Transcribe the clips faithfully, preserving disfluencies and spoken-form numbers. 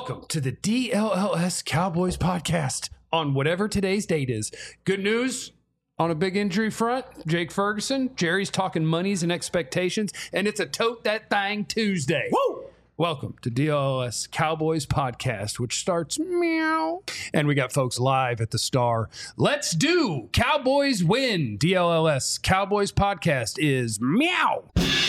Welcome to the D L L S Cowboys podcast on whatever today's date is. Good news on a big injury front. Jake Ferguson, Jerry's talking monies and expectations, and it's a Tote That Thing Tuesday. Woo! Welcome to D L L S Cowboys podcast, which starts meow. And we got folks live at the Star. Let's do Cowboys win. D L L S Cowboys podcast is meow.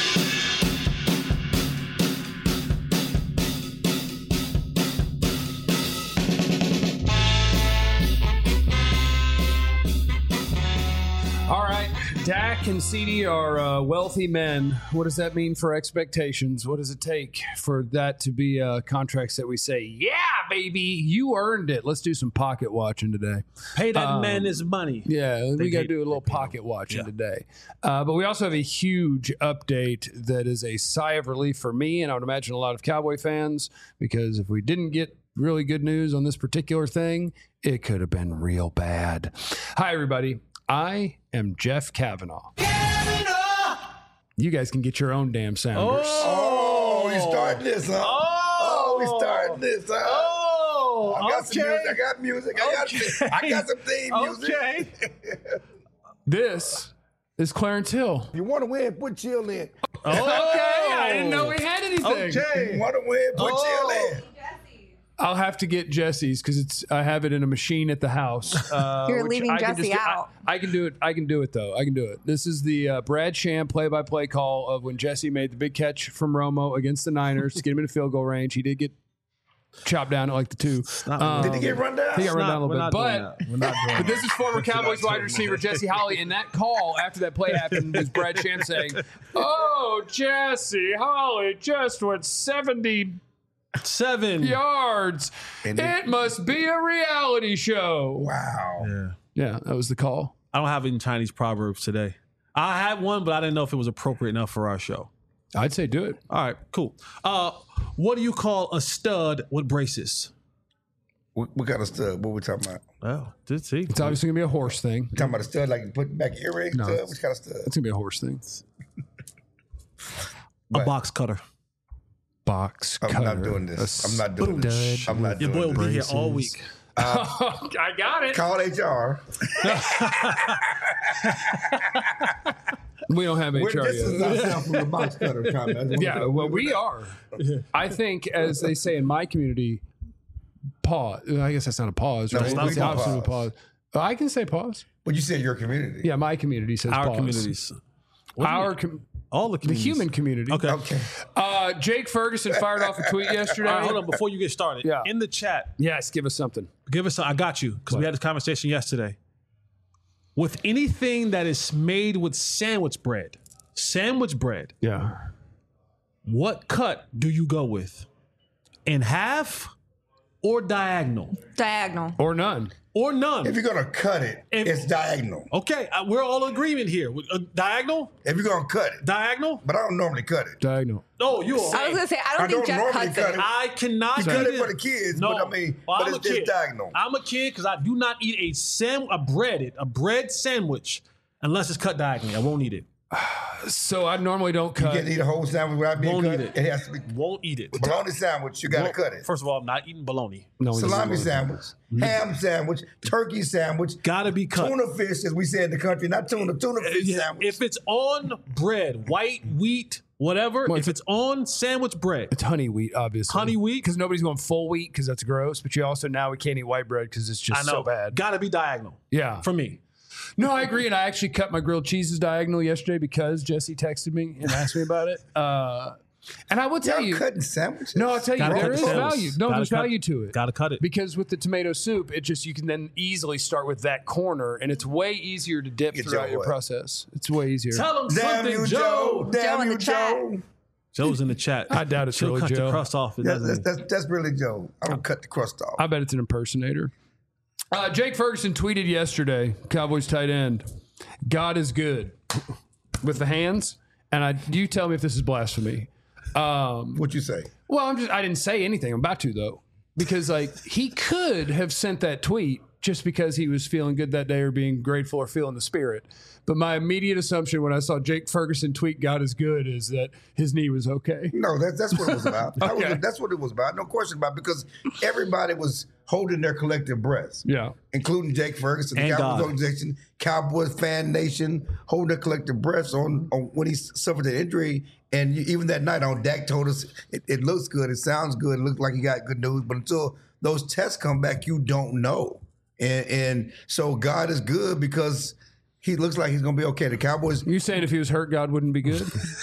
All right, Dak and C D are uh, wealthy men. What does that mean for expectations? What does it take for that to be uh, contracts that we say, yeah, baby, you earned it? Let's do some pocket watching today. Pay that Um, man his money. Yeah, They we got to pay- do a little they pay pocket watching Yeah. today. Uh, but we also have a huge update that is a sigh of relief for me, and I would imagine a lot of Cowboy fans, because if we didn't get really good news on this particular thing, it could have been real bad. Hi, everybody. I am Jeff Kavanaugh. Kavanaugh! You guys can get your own damn sounders. Oh, we starting this, huh? Oh, Oh, we starting this, huh? Oh, I got okay. some music. I got music. I got, Okay. I got some theme music. Okay. This is Clarence Hill. You want to win? Put chill in. Okay, I didn't know we had anything. Okay. You want to win? Put Oh. chill in. I'll have to get Jesse's because it's I have it in a machine at the house. Uh, You're which leaving I can Jesse just- I- out. I, can do it. I can do it though. I can do it. This is the uh, Brad Sham play-by-play call of when Jesse made the big catch from Romo against the Niners to get him in field goal range. He did get chopped down at like the two. not- Did he get run down? He got run not- down a we're little not bit, doing but. that. We're not doing But this is former Cowboys wide doing receiver Jesse Holley, and that call after that play happened was Brad Sham saying, "Oh, Jesse Holley just went seventy Seven. yards. And It must be a reality show." Wow. Yeah. Yeah, that was the call. I don't have any Chinese proverbs today. I had one, but I didn't know if it was appropriate enough for our show. I'd say do it. All right, cool. Uh, what do you call a stud with braces? We, we got a stud. What we talking about? Oh, did see. It's obviously gonna be a horse thing. We talking about a stud like you put back earrings? No. Stud? Which kind of stud? It's gonna be a horse thing. A box cutter. Box I'm cutter. not doing this. I'm not doing Dud. this. I'm not Your doing boy will this. be here all week. I got it. Call H R. We don't have We're H R distancing yet. ourselves from the box cutter comment. Yeah, well, we are. I think, as they say in my community, pause. I guess that's not a pause, right? it's not That's a the opposite of a pause. pause. I can say pause. But you said your community. Yeah, my community says Our pause. communities. What do you Our mean? com- all the the communities. human community. Okay. Okay. Uh, Jake Ferguson fired off a tweet yesterday. All right, hold on. Before you get started, Yeah. in the chat, Yes, give us something. give us. A, I got you because we had this conversation yesterday. With anything that is made with sandwich bread, sandwich bread, Yeah. what cut do you go with? In half or diagonal Diagonal. Or none. or none? If you're gonna cut it, If- it's diagonal. Okay, uh, we're all in agreement here. Uh, diagonal, If you're gonna cut it, diagonal. but I don't normally cut it. Diagonal. Oh, you. I was gonna say I don't I think don't Jeff normally cuts cut it. it. I cannot You cut eat it for the kids, No, but I mean, well, but I'm it's, a it's kid. diagonal. I'm a kid because I do not eat a sam a breaded a bread sandwich unless it's cut diagonally. I won't eat it. So I normally don't You cut. can't eat a whole sandwich without being Won't cut. eat it. It has to be Won't eat it. bologna sandwich. You gotta Won't- cut it. First of all, I'm not eating bologna. No, he Salami doesn't. sandwich, ham sandwich, turkey sandwich, Gotta be cut. tuna fish, as we say in the country, not tuna, tuna fish Yeah, sandwich. if it's on bread, white wheat, whatever. Well, if it's on sandwich bread, It's honey wheat, obviously. Honey wheat? Because nobody's going full wheat because that's gross. But you also, now we can't eat white bread because it's just I know. so bad. Gotta be diagonal Yeah. for me. No, I agree. And I actually cut my grilled cheeses diagonal yesterday because Jesse texted me and asked me about it. Uh, and I will tell Y'all you. cutting sandwiches? No, I'll tell you, Gotta there cut is the sandwich. value. No, Gotta there's cut- value to it. Gotta cut it. Because with the tomato soup, it just, you can then easily start with that corner and it's way easier to dip Get throughout your your what? process. It's way easier. Tell them Damn something, you, Joe. Joe. Damn Joe in you, the chat. Joe. Joe's in the chat. I doubt it's She'll really cut Joe. the crust off. It That's, doesn't. that's, that's, that's really Joe. I don't cut the crust off. I bet it's an impersonator. Uh, Jake Ferguson tweeted yesterday, Cowboys tight end, God is good with the hands. And I, you tell me if this is blasphemy. Um, What you say? well, I'm just, I didn't say anything. I'm about to though, because like he could have sent that tweet just because he was feeling good that day or being grateful or feeling the spirit. But my immediate assumption when I saw Jake Ferguson tweet "God is good" is that his knee was okay. No, that's that's what it was about. That Okay. was, that's what it was about. No question about it, because everybody was holding their collective breaths. Yeah. Including Jake Ferguson, the And Cowboys God. organization, Cowboys fan nation, holding their collective breaths on, on when he suffered an injury. And you, even that night on Dak told us it, it looks good, it sounds good, it looks like he got good news. But until those tests come back, you don't know. And, and so God is good because he looks like he's going to be okay. The Cowboys, You saying if he was hurt, God wouldn't be good?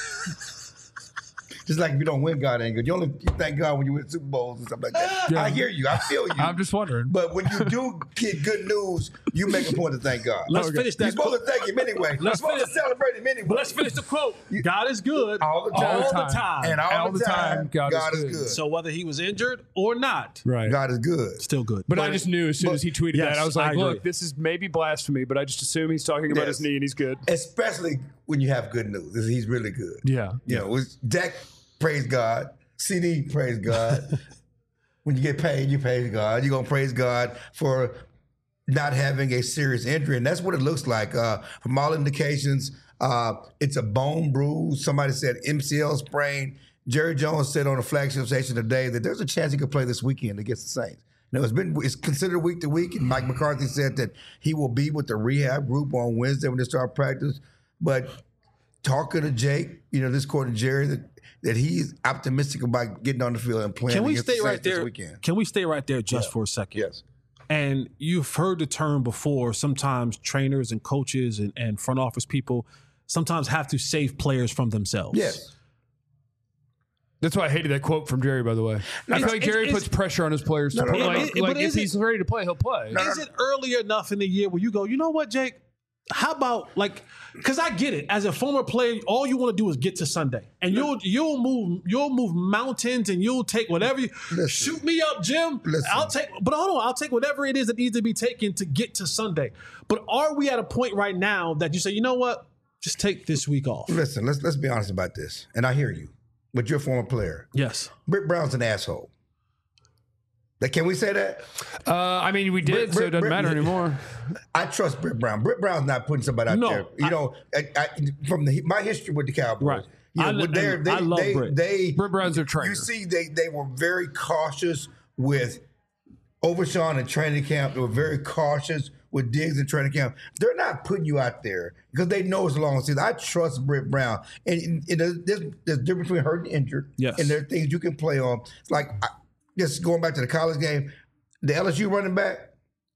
just like if you don't win, God ain't good. You only you thank God when you win Super Bowls and stuff like that. Yeah. I hear you. I feel you. I'm just wondering. But when you do get good news, you make a point to thank God. Let's Okay. finish You're that supposed quote. to thank him anyway. You're Let's supposed to finish- celebrate him anyway. But let's finish the quote. God is good all the time. all the time. time. And all, All the the time, time, God God, is is good. good. So whether he was injured or not, Right. God is good. still good. But, I But- just knew as soon but- as he tweeted Yes, that, I was I like, agree. look, this is maybe blasphemy, but I just assume he's talking about Yes. his knee and he's good. Especially when you have good news. He's really good. Yeah. You know, it's Dak, praise God. C D, praise God. When you get paid, you praise God. You're going to praise God for not having a serious injury. And that's what it looks like. Uh, from all indications, uh, it's a bone bruise. Somebody said M C L sprain. Jerry Jones said on the flagship station today that there's a chance he could play this weekend against the Saints. Now, it's been it's considered week to week, and Mike McCarthy said that he will be with the rehab group on Wednesday when they start practice. But talking to Jake, you know, this according to Jerry, that, that he's optimistic about getting on the field and playing Can we against stay the right Saints this there? weekend. Can we stay right there just for a second? Yes. And you've heard the term before. Sometimes trainers and coaches and, and front office people sometimes have to save players from themselves. Yes. That's why I hated that quote from Jerry, by the way. I feel like it's- Jerry it's- puts pressure on his players to No, no, play. no, no. Like, But like is if it- he's ready to play, he'll play. Is it early enough in the year where you go, you know what, Jake? How about like, because I get it. As a former player, all you want to do is get to Sunday, and you'll you'll move you'll move mountains, and you'll take whatever. You, Listen. shoot me up, Jim. Listen. I'll take, but hold on, I'll take whatever it is that needs to be taken to get to Sunday. But are we at a point right now that you say, you know what, just take this week off? Listen, let's let's be honest about this. And I hear you, but you're a former player. Yes. Britt Brown's an asshole. Like, can we say that? Uh, I mean, we did, Brit- so it doesn't Brit- matter Brit- anymore. I trust Britt Brown. Britt Brown's not putting somebody out No, there. You I- know, I, I, from the, my history with the Cowboys, Right. you know, I- with their, and they, I love they, Britt. they, Britt Brown's their trainer. You see, they they were very cautious with Overshawn in training camp. They were very cautious with Diggs in training camp. They're not putting you out there because they know it's a long season. I trust Britt Brown. And, and there's, there's a difference between hurt and injured. Yes. And there are things you can play on. It's like, I, just going back to the college game, the L S U running back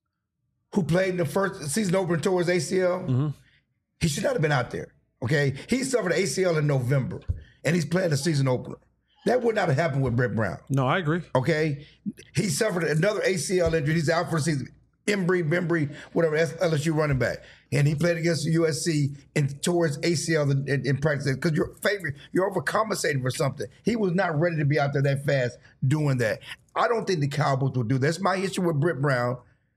who played in the first season opener towards A C L, Mm-hmm. he should not have been out there. Okay? He suffered A C L in November, and he's playing the season opener. That would not have happened with Britt Brown. No, I agree. Okay? He suffered another A C L injury. He's out for the season. Embry, Bembry, whatever, that's L S U running back. And he played against U S C and towards A C L in, in, in practice because you're favorite, you're overcompensating for something. He was not ready to be out there that fast doing that. I don't think the Cowboys will do that. That's my issue with Britt Brown.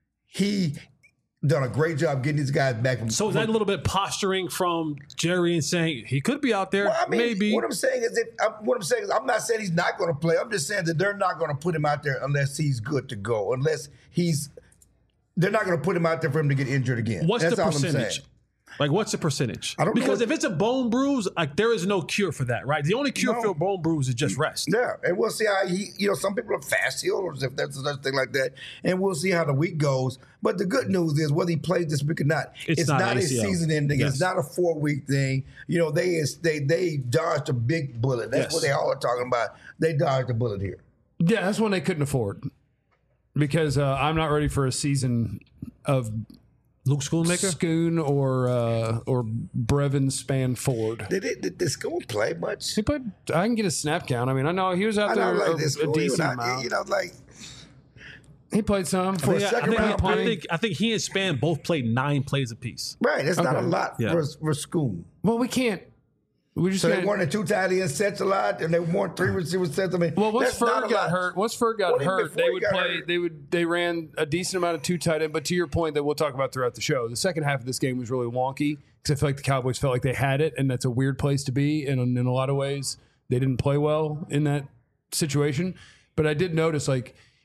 He done a great job getting these guys back from. So is that a little bit posturing from Jerry and saying he could be out there? Well, I mean, maybe. what I'm saying is, if, I'm, what I'm saying is, I'm not saying he's not going to play. I'm just saying that they're not going to put him out there unless he's good to go. Unless he's, they're not going to put him out there for him to get injured again. What's That's the all I'm percentage? saying. Like, what's the percentage? I don't know because what- if it's a bone bruise, like there is no cure for that, right? The only cure No. for a bone bruise is just rest. Yeah, and we'll see how he, you know, some people are fast healers if there's such thing like that, and we'll see how the week goes. But the good news is, whether he plays this week or not, It's it's, not not, A a C L. season ending. Yes. It's not a four week thing. You know, they is they they dodged a big bullet. That's Yes. what they all are talking about. They dodged a bullet here. Yeah, that's one they couldn't afford because uh, I'm not ready for a season of Luke Schoonmaker? Schoon or uh, or Brevin Spanford. Did it? Did this go play much? He played. I can get a snap count. I mean, I know he was out I there know, a, like this. a decent you know, amount. You know, like He played some. For a Yeah, I, second think, round I, play. think, I think he and Span both played nine plays apiece. right. That's not a Okay. lot Yeah. for for school. Well, we can't. We just So they can't- wanted two tight end sets a lot, and they want three receiver sets. I mean, Well, once that's not Ferg a got lot. hurt, once Ferg got What do you mean hurt, before they he would got play. hurt? They would. They ran a decent amount of two tight end. But to your point, that we'll talk about throughout the show, the second half of this game was really wonky because I feel like the Cowboys felt like they had it, and that's a weird place to be. And in, in a lot of ways, they didn't play well in that situation. But I did notice, like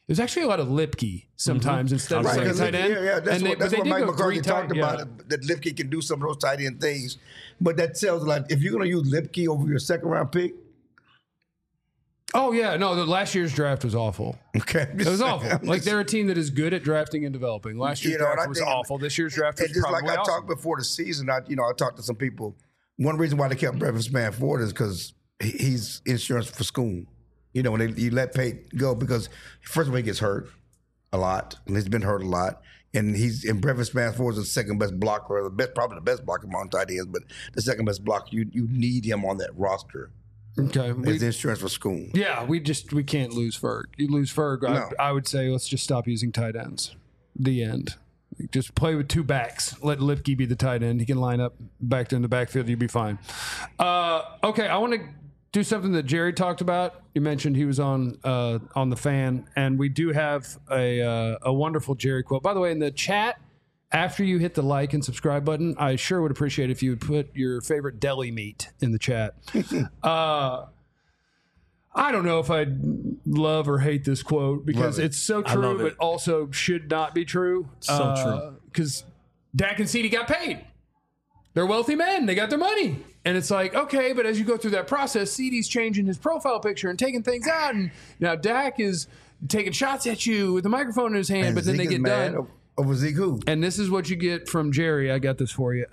There's actually a lot of Lipke sometimes mm-hmm. instead of right, second tight end. Yeah, yeah, that's and what, they, that's what Mike McCarthy talked tight, about, yeah. it, that Lipke can do some of those tight end things. But that tells like if you're going to use Lipke over your second round pick. Oh, yeah. No, the last year's draft was awful. Okay. It was awful. I'm like, just, they're a team that is good at drafting and developing. Last year's you know, draft was think, awful. This year's draft was just probably like I awesome. talked before the season, I, you know, I talked to some people. One reason why they kept Breakfast Man Ford is because he's insurance for school. You know, when they, you let Pate go because, first of all, he gets hurt a lot, and he's been hurt a lot. And he's in Breakfast Man Ford is the second best blocker, the best, probably the best blocker among tight ends, but the second best blocker. You you need him on that roster. Okay, as insurance for school. Yeah, we just we can't lose Ferg. You lose Ferg, no. I, I would say let's just stop using tight ends. The end. Just play with two backs. Let Lipke be the tight end. He can line up back in the backfield. You'll be fine. Uh, okay, I want to do something that Jerry talked about. You mentioned he was on uh, on the Fan, and we do have a uh, a wonderful Jerry quote. By the way, in the chat, after you hit the like and subscribe button, I sure would appreciate if you would put your favorite deli meat in the chat. uh, I don't know if I love or hate this quote because it. it's so true, but also should not be true. So uh, true. Because Dak and CeeDee got paid. They're wealthy men. They got their money. And it's like, okay, but as you go through that process, CeeDee's changing his profile picture and taking things out. And now Dak is taking shots at you with the microphone in his hand, And but then Zeke they is get mad done. Over Zeke who? And this is what you get from Jerry. I got this for you.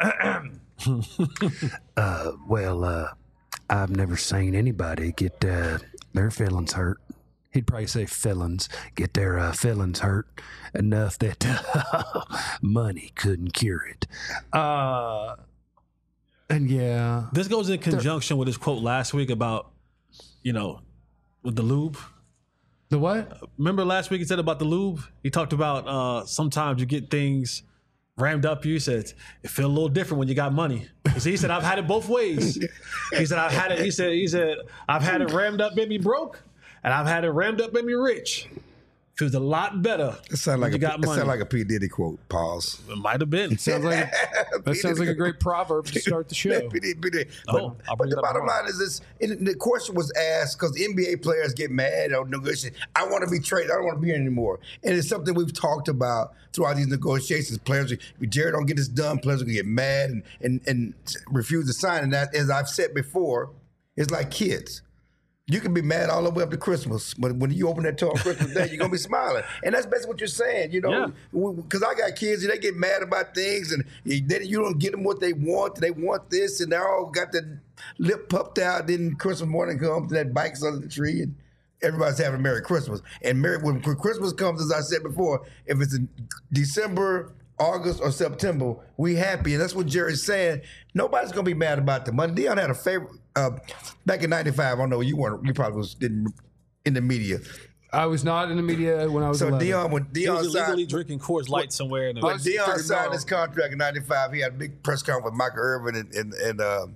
uh, well, uh, I've never seen anybody get uh, their feelings hurt. He'd probably say feelings, get their uh, feelings hurt enough that uh, money couldn't cure it. Uh, and yeah. This goes in conjunction with his quote last week about, you know, with the lube. The what? Remember last week he said about the lube? He talked about uh, sometimes you get things rammed up you. He said, it feel a little different when you got money. He said, I've had it both ways. He said, I've had it, he said, he said, I've had it rammed up, made me broke, and I've had it rammed up, made me rich. Feels a lot better. It sounds like you a, got it money. sound like a P. Diddy quote. Pause. It might have been. Sounds like a, that sounds like a great proverb to start the show. P. Diddy, P. Diddy. Oh, But, I'll but bring the it up bottom tomorrow. line is this: and the question was asked because N B A players get mad or negotiate. I want to be traded. I don't want to be here anymore. And it's something we've talked about throughout these negotiations. Players, if Jerry don't get this done, players are gonna get mad and and and refuse to sign. And that, as I've said before, it's like kids. You can be mad all the way up to Christmas, but when you open that door on Christmas Day, you're gonna be smiling, and that's basically what you're saying, you know. Because I got kids, and they get mad about things, and then you don't get them what they want. They want this, and they all got the lip puffed out. Then Christmas morning comes, and that bike's under the tree, and everybody's having a Merry Christmas. And Merry, when Christmas comes, as I said before, if it's in December, August, or September, we happy, and that's what Jerry's saying. Nobody's gonna be mad about the money. Deion had a favorite. Uh, back in ninety-five, I don't know, you weren't, you probably was didn't in the media. I was not in the media when I was So eleven. Deion, when He Deion was illegally signed, drinking Coors Light somewhere. In the when was Deion figured signed out. his contract in ninety-five, he had a big press conference with Michael Irvin and and and, uh,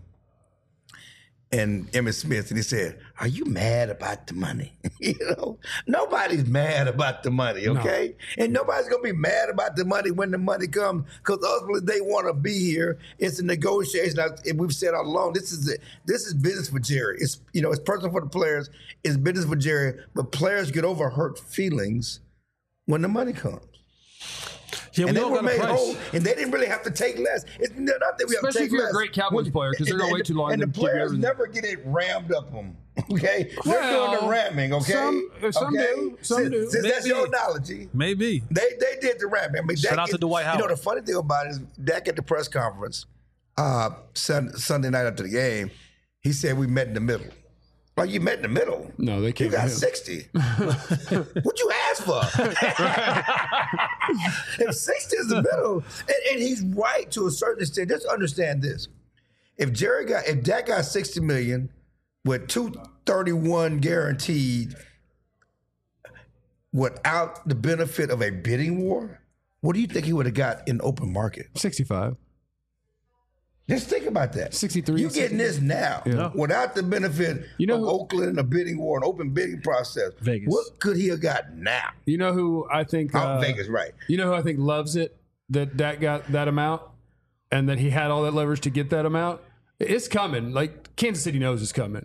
and Emmitt Smith, and he said, "Are you mad about the money?" You know, nobody's mad about the money, okay? No. And nobody's gonna be mad about the money when the money comes, because ultimately they want to be here. It's a negotiation, and we've said all along. This is a, this is business for Jerry. It's you know, it's personal for the players. It's business for Jerry. But players get over hurt feelings when the money comes. Yeah, we and they all were got a made price. whole, and they didn't really have to take less. It's not that we have to Especially take if you're less. a great Cowboys When- player, 'cause they're and- gonna and wait the- too long And to the give you players everything. never get it rammed up them. Okay, they're Well, doing the ramming. Okay, some- some okay? do, some since, do. Since that's Maybe. your analogy, Maybe. they they did the ramming. I mean, Shout Dak out to get- Dwight You know, Howard. the funny thing about it is, Dak at the press conference uh, sun, Sunday night after the game, he said we met in the middle. Like, you met in the middle. No, they You can't. got sixty. What you ask for? If sixty is the middle, and, and he's right to a certain extent. Just understand this: if Jerry got, if Dak got sixty million with two thirty-one guaranteed, without the benefit of a bidding war, what do you think he would have got in open market? sixty-five. Just think about that. sixty-three, You getting this now Yeah. without the benefit You know of who- Oakland and a bidding war, an open bidding process. Vegas. What could he have got now? You know who I think? Oh, uh, Vegas, right? You know who I think loves it that Dak got that amount and that he had all that leverage to get that amount? It's coming. Like Kansas City knows it's coming.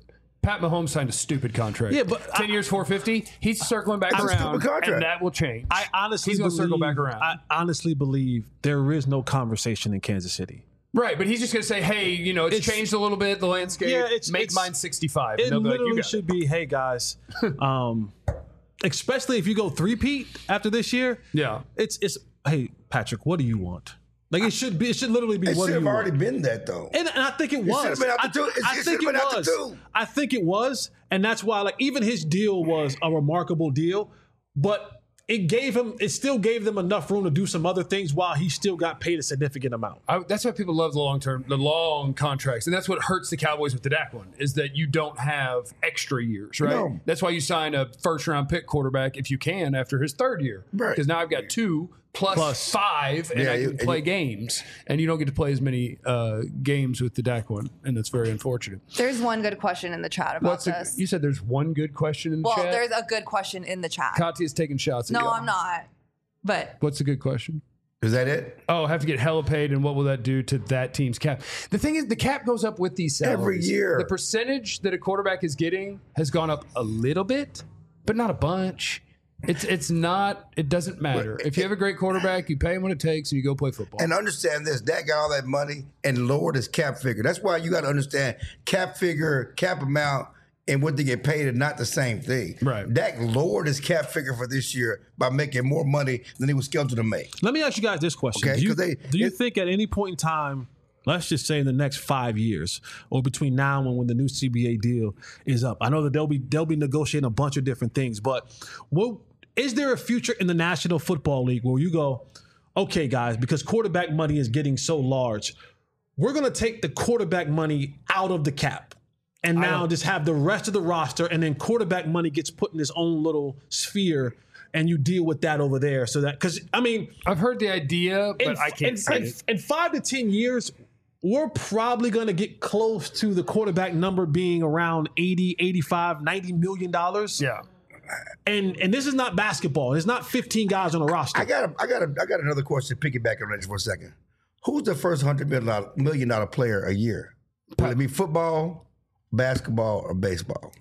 Pat Mahomes signed a stupid contract. Yeah, but ten I- years, four fifty. He's circling back That's a around, stupid contract. and that will change. I honestly he's going believe, to circle back around. I honestly believe there is no conversation in Kansas City. Right, but he's just going to say, "Hey, you know, it's, It's- changed a little bit, the landscape. Yeah, it's- Make it's- mine sixty-five." It And they'll be like, literally "You got should be, hey guys, um, especially if you go three-peat after this year. Yeah. it's it's hey Patrick, what do you want? Like it should be. It should literally be. It what should do you have already want? been that though. And, and I think it should was. have been after I, two. It- I it think should it have been after was. two. I think it was, and that's why, like, even his deal was a remarkable deal, but it gave him. It still gave them enough room to do some other things while he still got paid a significant amount. I, that's why people love the long term, the long contracts, and that's what hurts the Cowboys with the Dak one is that you don't have extra years, right? No. That's why you sign a first round pick quarterback if you can after his third year, Right. Because now I've got two plus, Plus. five, and Yeah, I you- can and play you- games, and you don't get to play as many uh, games with the Dak one, and that's very unfortunate. There's one good question in the chat about What's the, this. you said there's one good question in the well, chat. there's a good question in the chat. Katya's taking shots at no, you. I'm not. But What's the good question? Is that it? Oh, have to get hella paid, and what will that do to that team's cap? The thing is, the cap goes up with these salaries. Every year. The percentage that a quarterback is getting has gone up a little bit, but not a bunch. It's it's not. It doesn't matter. If you have a great quarterback, you pay him what it takes, and you go play football. And understand this, Dak got all that money and lowered his cap figure. That's why you got to understand cap figure, cap amount, and what they get paid are not the same thing. Right. Dak lowered his cap figure for this year by making more money than he was scheduled to make. Let me ask you guys this question: Okay, Do you, 'cause they- do you it- think at any point in time, let's just say in the next five years, or between now and when the new C B A deal is up, I know that they'll be they'll be negotiating a bunch of different things, but what is there a future in the National Football League where you go, okay, guys, because quarterback money is getting so large, we're going to take the quarterback money out of the cap and now just have the rest of the roster, and then quarterback money gets put in its own little sphere, and you deal with that over there. So that, because I mean, I've heard the idea, but in, I can't in, see in, it. in five to ten years, we're probably going to get close to the quarterback number being around eighty, eighty-five, ninety million dollars. Yeah. And and this is not basketball. There's not fifteen guys on a roster. I got a, I got a, I got another question. Piggyback on that just for a second. Who's the first hundred million dollar, million dollar player a year? Will it be football, basketball, or baseball?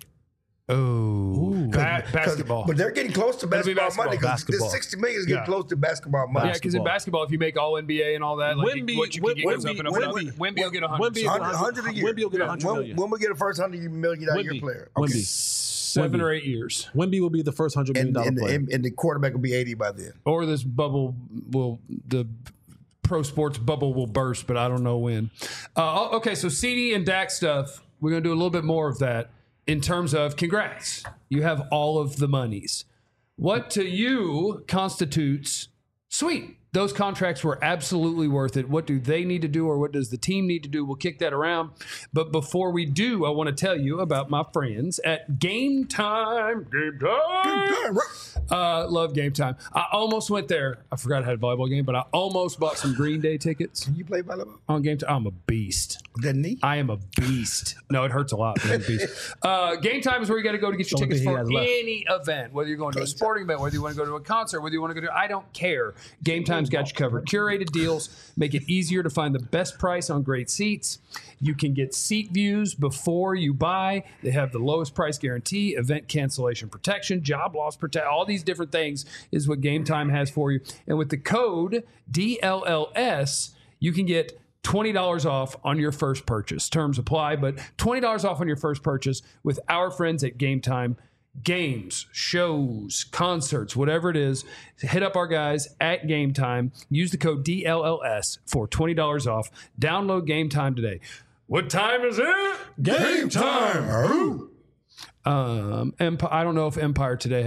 Oh, ba- 'Cause- basketball. But they're getting close to It'll be basketball, money because basketball. this sixty million is getting Yeah. close to basketball money. yeah, because in basketball, if you make all N B A and all that, like Wemby- what you can get goes up and up and up. Wemby- Wemby will get a Wemby- hundred. Wemby- one hundred a year. Wemby will get one hundred when, million. when we get a first hundred million dollar year Wemby. player? Wemby. Seven Wemby. or eight years, Wemby will be the first hundred million And, dollar and, player. and, and the quarterback will be eighty by then. or this bubble will the pro sports bubble will burst, but I don't know when. Uh, okay, so C D and Dak stuff. We're gonna do a little bit more of that in terms of congrats. You have all of the monies. What to you constitutes sweet? Those contracts were absolutely worth it. What do they need to do, or what does the team need to do? We'll kick that around. But before we do, I want to tell you about my friends at Game Time. Game Time. Uh, love Game Time. I almost went there. I forgot I had a volleyball game, but I almost bought some Green Day tickets You play volleyball? on Game Time. I'm a beast. The knee? I am a beast. No, it hurts a lot. But I'm a beast. Uh, Game Time is where you got to go to get your Only tickets thing he for has left. any event, whether you're going to a sporting event, whether you want to go to a concert, whether you want to go to, I don't care. Game Time's got you covered. Curated deals make it easier to find the best price on great seats. You can get seat views before you buy. They have the lowest price guarantee, event cancellation protection, job loss protection, all these different things is what Game Time has for you. And with the code D L L S, you can get twenty dollars off on your first purchase. Terms apply, but twenty dollars off on your first purchase with our friends at Game Time. Games, shows, concerts, whatever it is, hit up our guys at Game Time. Use the code D L L S for twenty dollars off. Download Game Time today. What time is it? Game time. Um, Empire. I don't know if Empire today.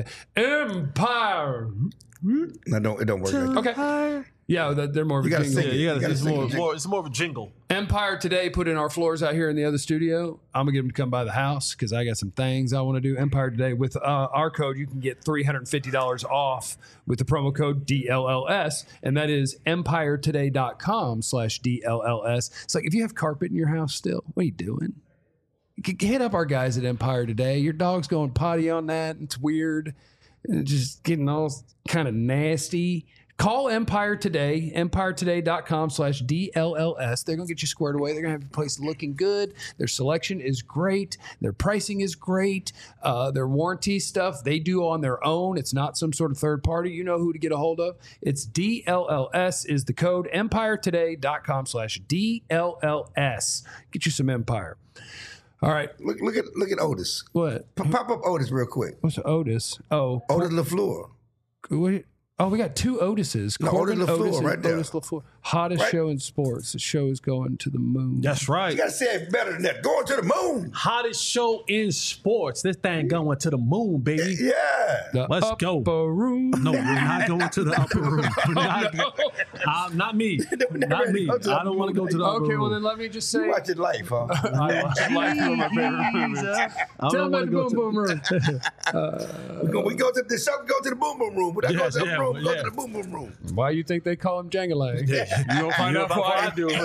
Empire. No, don't, it don't work like that. Okay. Yeah, that- they're more of a You gotta jingle. sing it. yeah, you gotta, You gotta it's, sing more, it. more, it's more of a jingle. Empire today put in our floors out here in the other studio. I'm gonna get them to come by the house because I got some things I want to do. Empire today with uh, our code, you can get three hundred fifty dollars off with the promo code D L L S, and that is empire today dot com slash D L L S. It's like if you have carpet in your house still, what are you doing? G- Hit up our guys at Empire Today. Your dog's going potty on that. It's weird. just getting all kind of nasty. Call Empire today, empire today dot com slash D L L S. They're going to get you squared away. They're going to have your place looking good. Their selection is great. Their pricing is great. Uh, their warranty stuff, they do on their own. It's not some sort of third party. You know who to get a hold of. It's D L L S is the code, empire today dot com slash D L L S. Get you some Empire. All right. Look, look at look at Otis. What? P- pop up Otis real quick. What's Otis? Oh. Otis LaFleur. Wait. Oh, we got two Otises. No, Corbin Otis LaFleur Otis and right there. Otis LaFleur. Hottest Right. show in sports. The show is going to the moon. That's right. You gotta say it better than that. Going to the moon. Hottest show in sports. This thing going to the moon, baby. Yeah. The Let's upper go. room. No, we're not going to the upper room. We're not, uh, not me. Not me. Go to the I don't want to go to the upper Okay, room. well then let me just say. You watching life, huh? I watch life from my favorite movies. I Tell don't me want about to the go boom to. boom room. we, go, we go to the show, go to the boom boom room. When I go Yes, to the yeah, room, go yeah. to the boom boom room. Why you think they call him Jangalang? You don't find out before I do.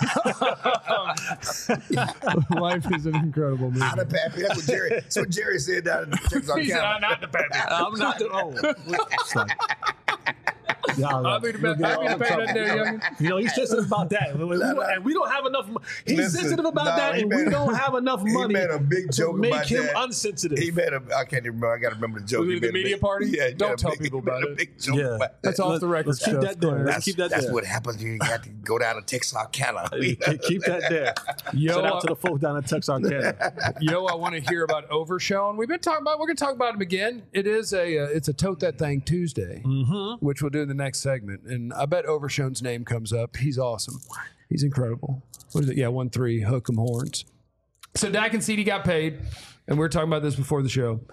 Life is an incredible movie. Not a pappy. That's what Jerry. That's what Jerry said down in Texas. He said, I'm not the pappy. I'm not the. Oh, it's like, y'all, I'll be the best pappy to pay that there, young. you know, he's sensitive about that. We- we- And we don't have enough. mo- He's Listen, sensitive about nah, that, he and made we a- don't have enough he money made a big to joke make about him that. unsensitive. He made a. I can't even remember. I got to remember the joke. Was it He the made a media big- party? Yeah, he Don't made a tell big- people he made about a it. big joke Yeah. about that. That's off the record Let's keep stuff. that there. Let's That's, keep that that's there. what happens when you got to go down to Texarkana. Keep keep that there. Yo, Shout out uh, to the folks down in Texarkana. Yo, I want to hear about Overshown. We've been talking about. We're going to talk about him again. It is a. Uh, it's a tote that thing Tuesday, Mm-hmm. which we'll do in the next segment. And I bet Overshown's name comes up. He's awesome. He's incredible. What is it? Yeah, one three hook 'em horns. So Dak and C D got paid, and we were talking about this before the show.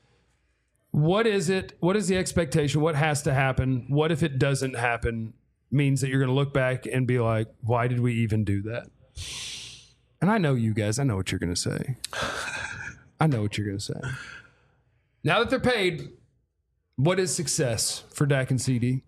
What is it? What is the expectation? What has to happen? What if it doesn't happen? Means that you're going to look back and be like, why did we even do that? And I know you guys. I know what you're going to say. I know what you're going to say. Now that they're paid, what is success for Dak and C D?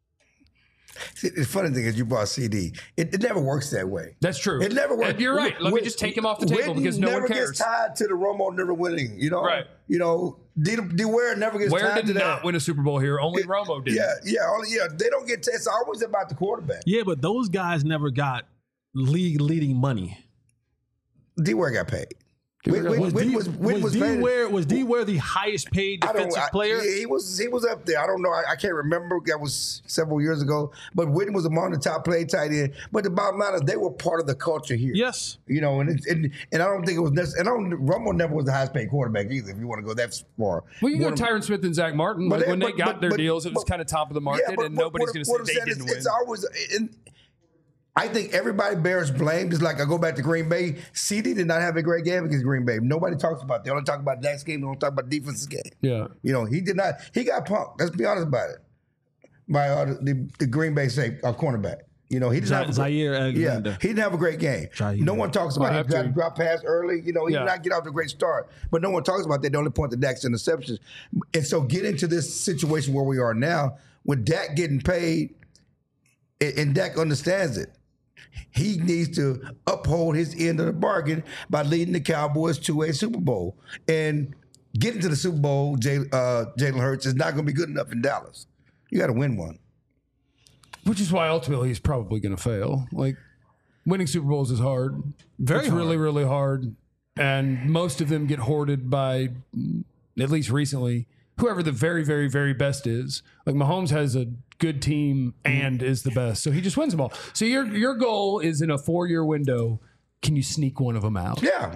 See, the funny thing is, you brought C D. It, it never works that way. That's true. It never works. And you're right. Let me Win- just take him off the table Witten because no never one cares. gets tied to the Romo never winning. You know, Right. You know, D. D Ware never gets Where tied did to not that. win a Super Bowl here? Only Romo did. Yeah, yeah, only, yeah. They don't get. T- it's always about the quarterback. Yeah, but those guys never got league leading money. D Ware got paid. Ware When, got- when, Was when D, was, when was was D paid- Ware was D Ware the highest paid I don't. defensive I, player? He, he was. He was up there. I don't know. I, I can't remember. That was several years ago. But Witten was among the top play tight end. But the bottom line is, they were part of the culture here. Yes. You know, and it, and, and I don't think it was necessary. And I don't. Romo never was the highest paid quarterback either. If you want to go that far. Well, you One got of- Tyron Smith and Zach Martin. But Like, they- when they but- got but- their but- deals, it was but- kind of top of the market, Yeah, but and what- nobody's what- going to what say I'm they saying didn't is, win. It's always. In, I think everybody bears blame. Just like I go back to Green Bay, C D did not have a great game against Green Bay. Nobody talks about it. They only talk about Dak's game. They don't talk about defense's game. Yeah. You know, he did not. He got punked. Let's be honest about it. By uh, the, the Green Bay say uh, cornerback. You know, he didn't have a great- Zaire Alexander. Yeah, he didn't have a great game. Jair. No one talks about Well, it. have He got to. to drop pass early. You know, he Yeah. did not get off to a great start. But no one talks about that. They only point to Dak's interceptions. And so get into this situation where we are now, with Dak getting paid, and, and Dak understands it. He needs to uphold his end of the bargain by leading the Cowboys to a Super Bowl. And getting to the Super Bowl, Jay, uh, Jalen Hurts, is not going to be good enough in Dallas. You got to win one. Which is why ultimately he's probably going to fail. Like, winning Super Bowls is hard. Very it's hard. really, really hard. And most of them get hoarded by, at least recently, whoever the very, very, very best is. Like, Mahomes has a good team and is the best. So he just wins them all. So your your goal is in a four-year window, can you sneak one of them out? Yeah.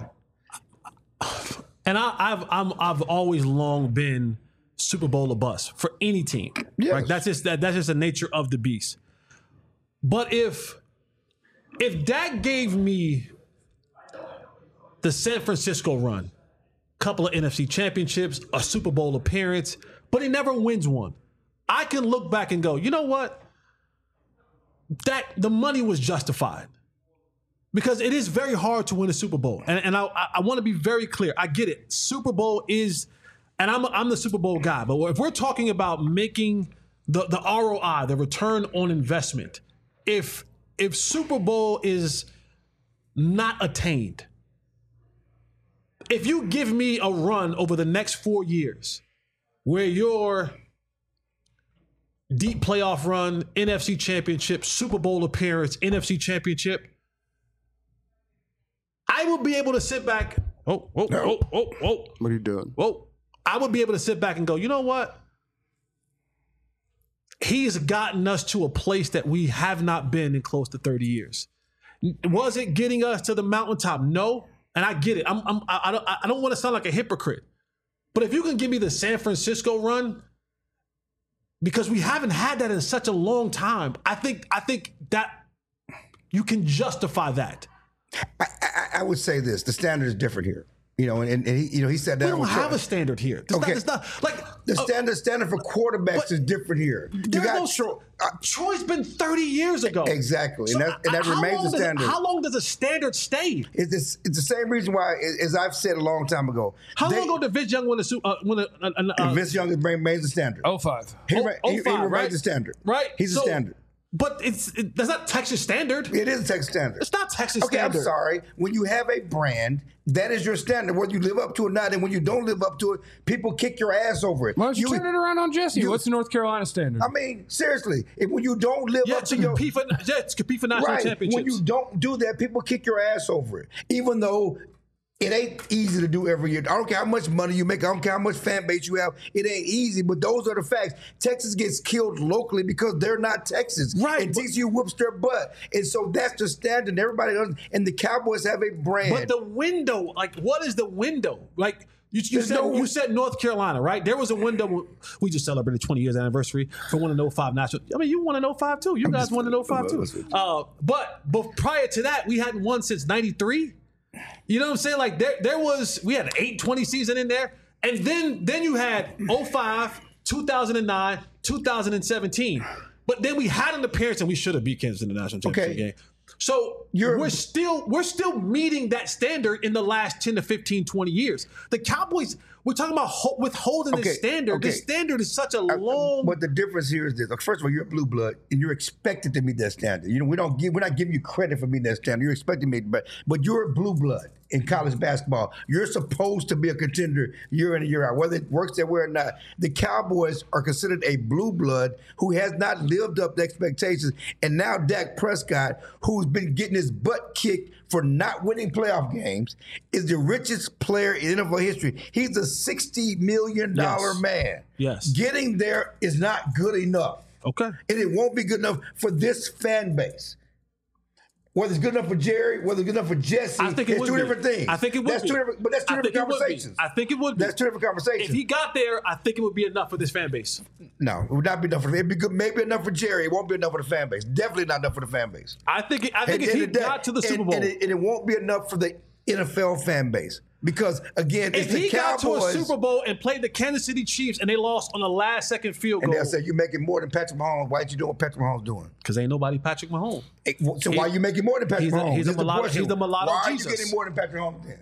And I, I've I'm, I've always long been Super Bowl or bust for any team. Yes. Right? That's just that, that's just the nature of the beast. But if if Dak gave me the San Francisco run, couple of N F C championships, a Super Bowl appearance, but he never wins one, I can look back and go, you know what? That the money was justified. Because it is very hard to win a Super Bowl. And, and I, I want to be very clear. I get it. Super Bowl is, and I'm, I'm the Super Bowl guy, but if we're talking about making the, the R O I, the return on investment, if if Super Bowl is not attained, if you give me a run over the next four years where your deep playoff run, N F C Championship, Super Bowl appearance, N F C Championship, I will be able to sit back. Oh, oh, oh, oh, oh. What are you doing? Whoa. I would be able to sit back and go, you know what? He's gotten us to a place that we have not been in close to thirty years. Was it getting us to the mountaintop? No. And I get it. I'm, I'm, I don't, I don't want to sound like a hypocrite. But if you can give me the San Francisco run, because we haven't had that in such a long time, I think, I think that you can justify that. I, I, I would say this: the standard is different here. You know, and, and he, you know, he said that We don't have a standard here. It's Okay. not, it's not like the uh, standard standard for quarterbacks but is different here. You There's got no Troy. Troy's been thirty years ago. exactly, So and that, and that how remains long the does- standard. How long does a standard stay? It's, it's, it's the same reason why, as I've said a long time ago. How they- long ago did Vince Young win a su- uh, win a, a, a, a Vince Young remains the standard. Oh five. he, oh, rema- he, he oh five, remains right? the standard. right? He's So- the standard. But it's it, that's not Texas standard. It is a Texas standard. It's not Texas Okay, standard. I'm sorry. When you have a brand, that is your standard, whether you live up to it or not. And when you don't live up to it, people kick your ass over it. Why don't you, turn it around on Jesse? you- What's the North Carolina standard? I mean, seriously, if, when you don't live Yeah, up to to your compete for yeah, to compete for national right, championships. when you don't do that, people kick your ass over it. Even though it ain't easy to do every year. I don't care how much money you make. I don't care how much fan base you have. It ain't easy, but those are the facts. Texas gets killed locally because they're not Texas. Right, And but- T C U whoops their butt. And so that's the standard. And everybody does. And the Cowboys have a brand. But the window, like, what is the window? Like, you, you There's said no- you said North Carolina, right? There was a window. when- We just celebrated twenty years anniversary for winning oh five national. I mean, you won in oh five too. You guys just- won in oh five too. Uh, but but prior to that, we hadn't won since ninety-three. You know what I'm saying? Like there there was we had an eight twenty season in there, and then then you had oh five, two thousand nine, two thousand seventeen. But then we had an appearance, and we should have beat Kansas in the national championship Okay. game. So You're- we're still we're still meeting that standard in the last ten to fifteen, twenty years. The Cowboys, we're talking about ho- withholding Okay, the standard. okay. The standard is such a long. But the difference here is this. Like, first of all, you're a blue blood, and you're expected to meet that standard. You know, we don't give, we're not giving you credit for meeting that standard. You're expected to meet, but but you're a blue blood in college basketball. You're supposed to be a contender year in and year out, whether it works that way or not. The Cowboys are considered a blue blood who has not lived up to expectations, and now Dak Prescott, who's been getting his butt kicked for not winning playoff games, is the richest player in N F L history. He's a sixty million dollars Yes. man. Yes. Getting there is not good enough. Okay. And it won't be good enough for this fan base. Whether it's good enough for Jerry, whether it's good enough for Jesse, I think it it's would two be. different things. I think it would that's be. Two different, but that's two I different think it would be. conversations. I think it would be. That's two different conversations. If he got there, I think it would be enough for this fan base. no, it would not be enough for It'd be good, maybe enough for Jerry. It won't be enough for the fan base. Definitely not enough for the fan base. I think. It, I think And- if and he it- got to the and- Super Bowl, and it, and it won't be enough for the N F L fan base. Because again, if it's the he got to a Cowboys, Super Bowl and played the Kansas City Chiefs and they lost on the last second field and goal, they'll say you're making more than Patrick Mahomes. Why aren't you doing what Patrick Mahomes doing? because ain't nobody Patrick Mahomes. Hey, well, So why are you making more than Patrick he's a- Mahomes? he's a This is the mulatto- question. he's the mulatto Why are Jesus. you getting more than Patrick Mahomes then?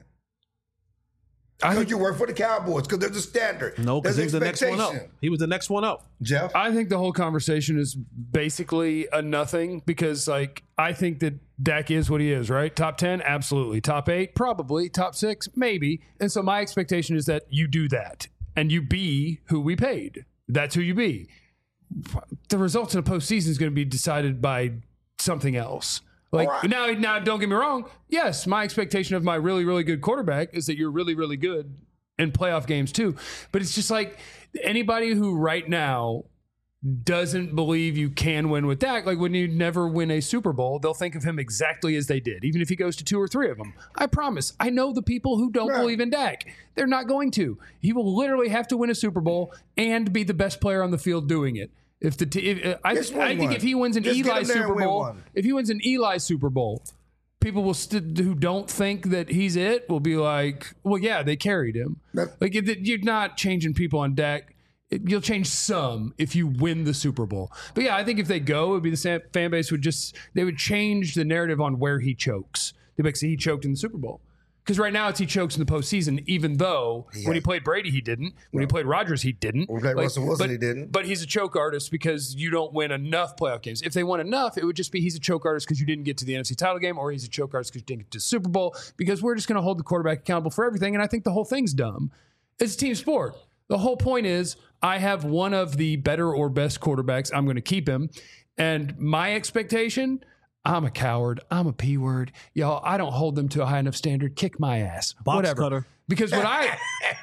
I Because think, you work for the Cowboys. Because there's a standard. No, because There's he was the next one up. expectation. He was the next one up. Jeff? I think the whole conversation is basically a nothing because, like, I think that Dak is what he is, right? Top ten, absolutely. Top eight, probably. Top six, maybe. And so my expectation is that you do that and you be who we paid. That's who you be. The results in the postseason is going to be decided by something else. Like All right. now, now, don't get me wrong. Yes, my expectation of my really, really good quarterback is that you're really, really good in playoff games too. But it's just like anybody who right now doesn't believe you can win with Dak, like when you never win a Super Bowl, they'll think of him exactly as they did, even if he goes to two or three of them. I promise. I know the people who don't Right. believe in Dak. They're not going to. He will literally have to win a Super Bowl and be the best player on the field doing it. If the t- if, I, Just win I think one. if he wins an Just get Eli him there and Super win Bowl, one. if he wins an Eli Super Bowl, people will st- who don't think that he's it will be like, well, yeah, they carried him. That- Like it, you're not changing people on Dak. It, you'll change some if you win the Super Bowl. But yeah, I think if they go, it would be the same fan base would just they would change the narrative on where he chokes. They'd be like, see, he choked in the Super Bowl. Because right now it's he chokes in the postseason, even though when he played Brady, he didn't. When he played Rodgers, he didn't. When he played Russell Wilson, but, he didn't. But he's a choke artist because you don't win enough playoff games. If they won enough, it would just be he's a choke artist because you didn't get to the N F C title game, or he's a choke artist because you didn't get to the Super Bowl, because we're just going to hold the quarterback accountable for everything. And I think the whole thing's dumb. It's a team sport. The whole point is I have one of the better or best quarterbacks. I'm going to keep him. And my expectation, I'm a coward. I'm a P word. Y'all, I don't hold them to a high enough standard. Kick my ass. Box Whatever. cutter. Because what I,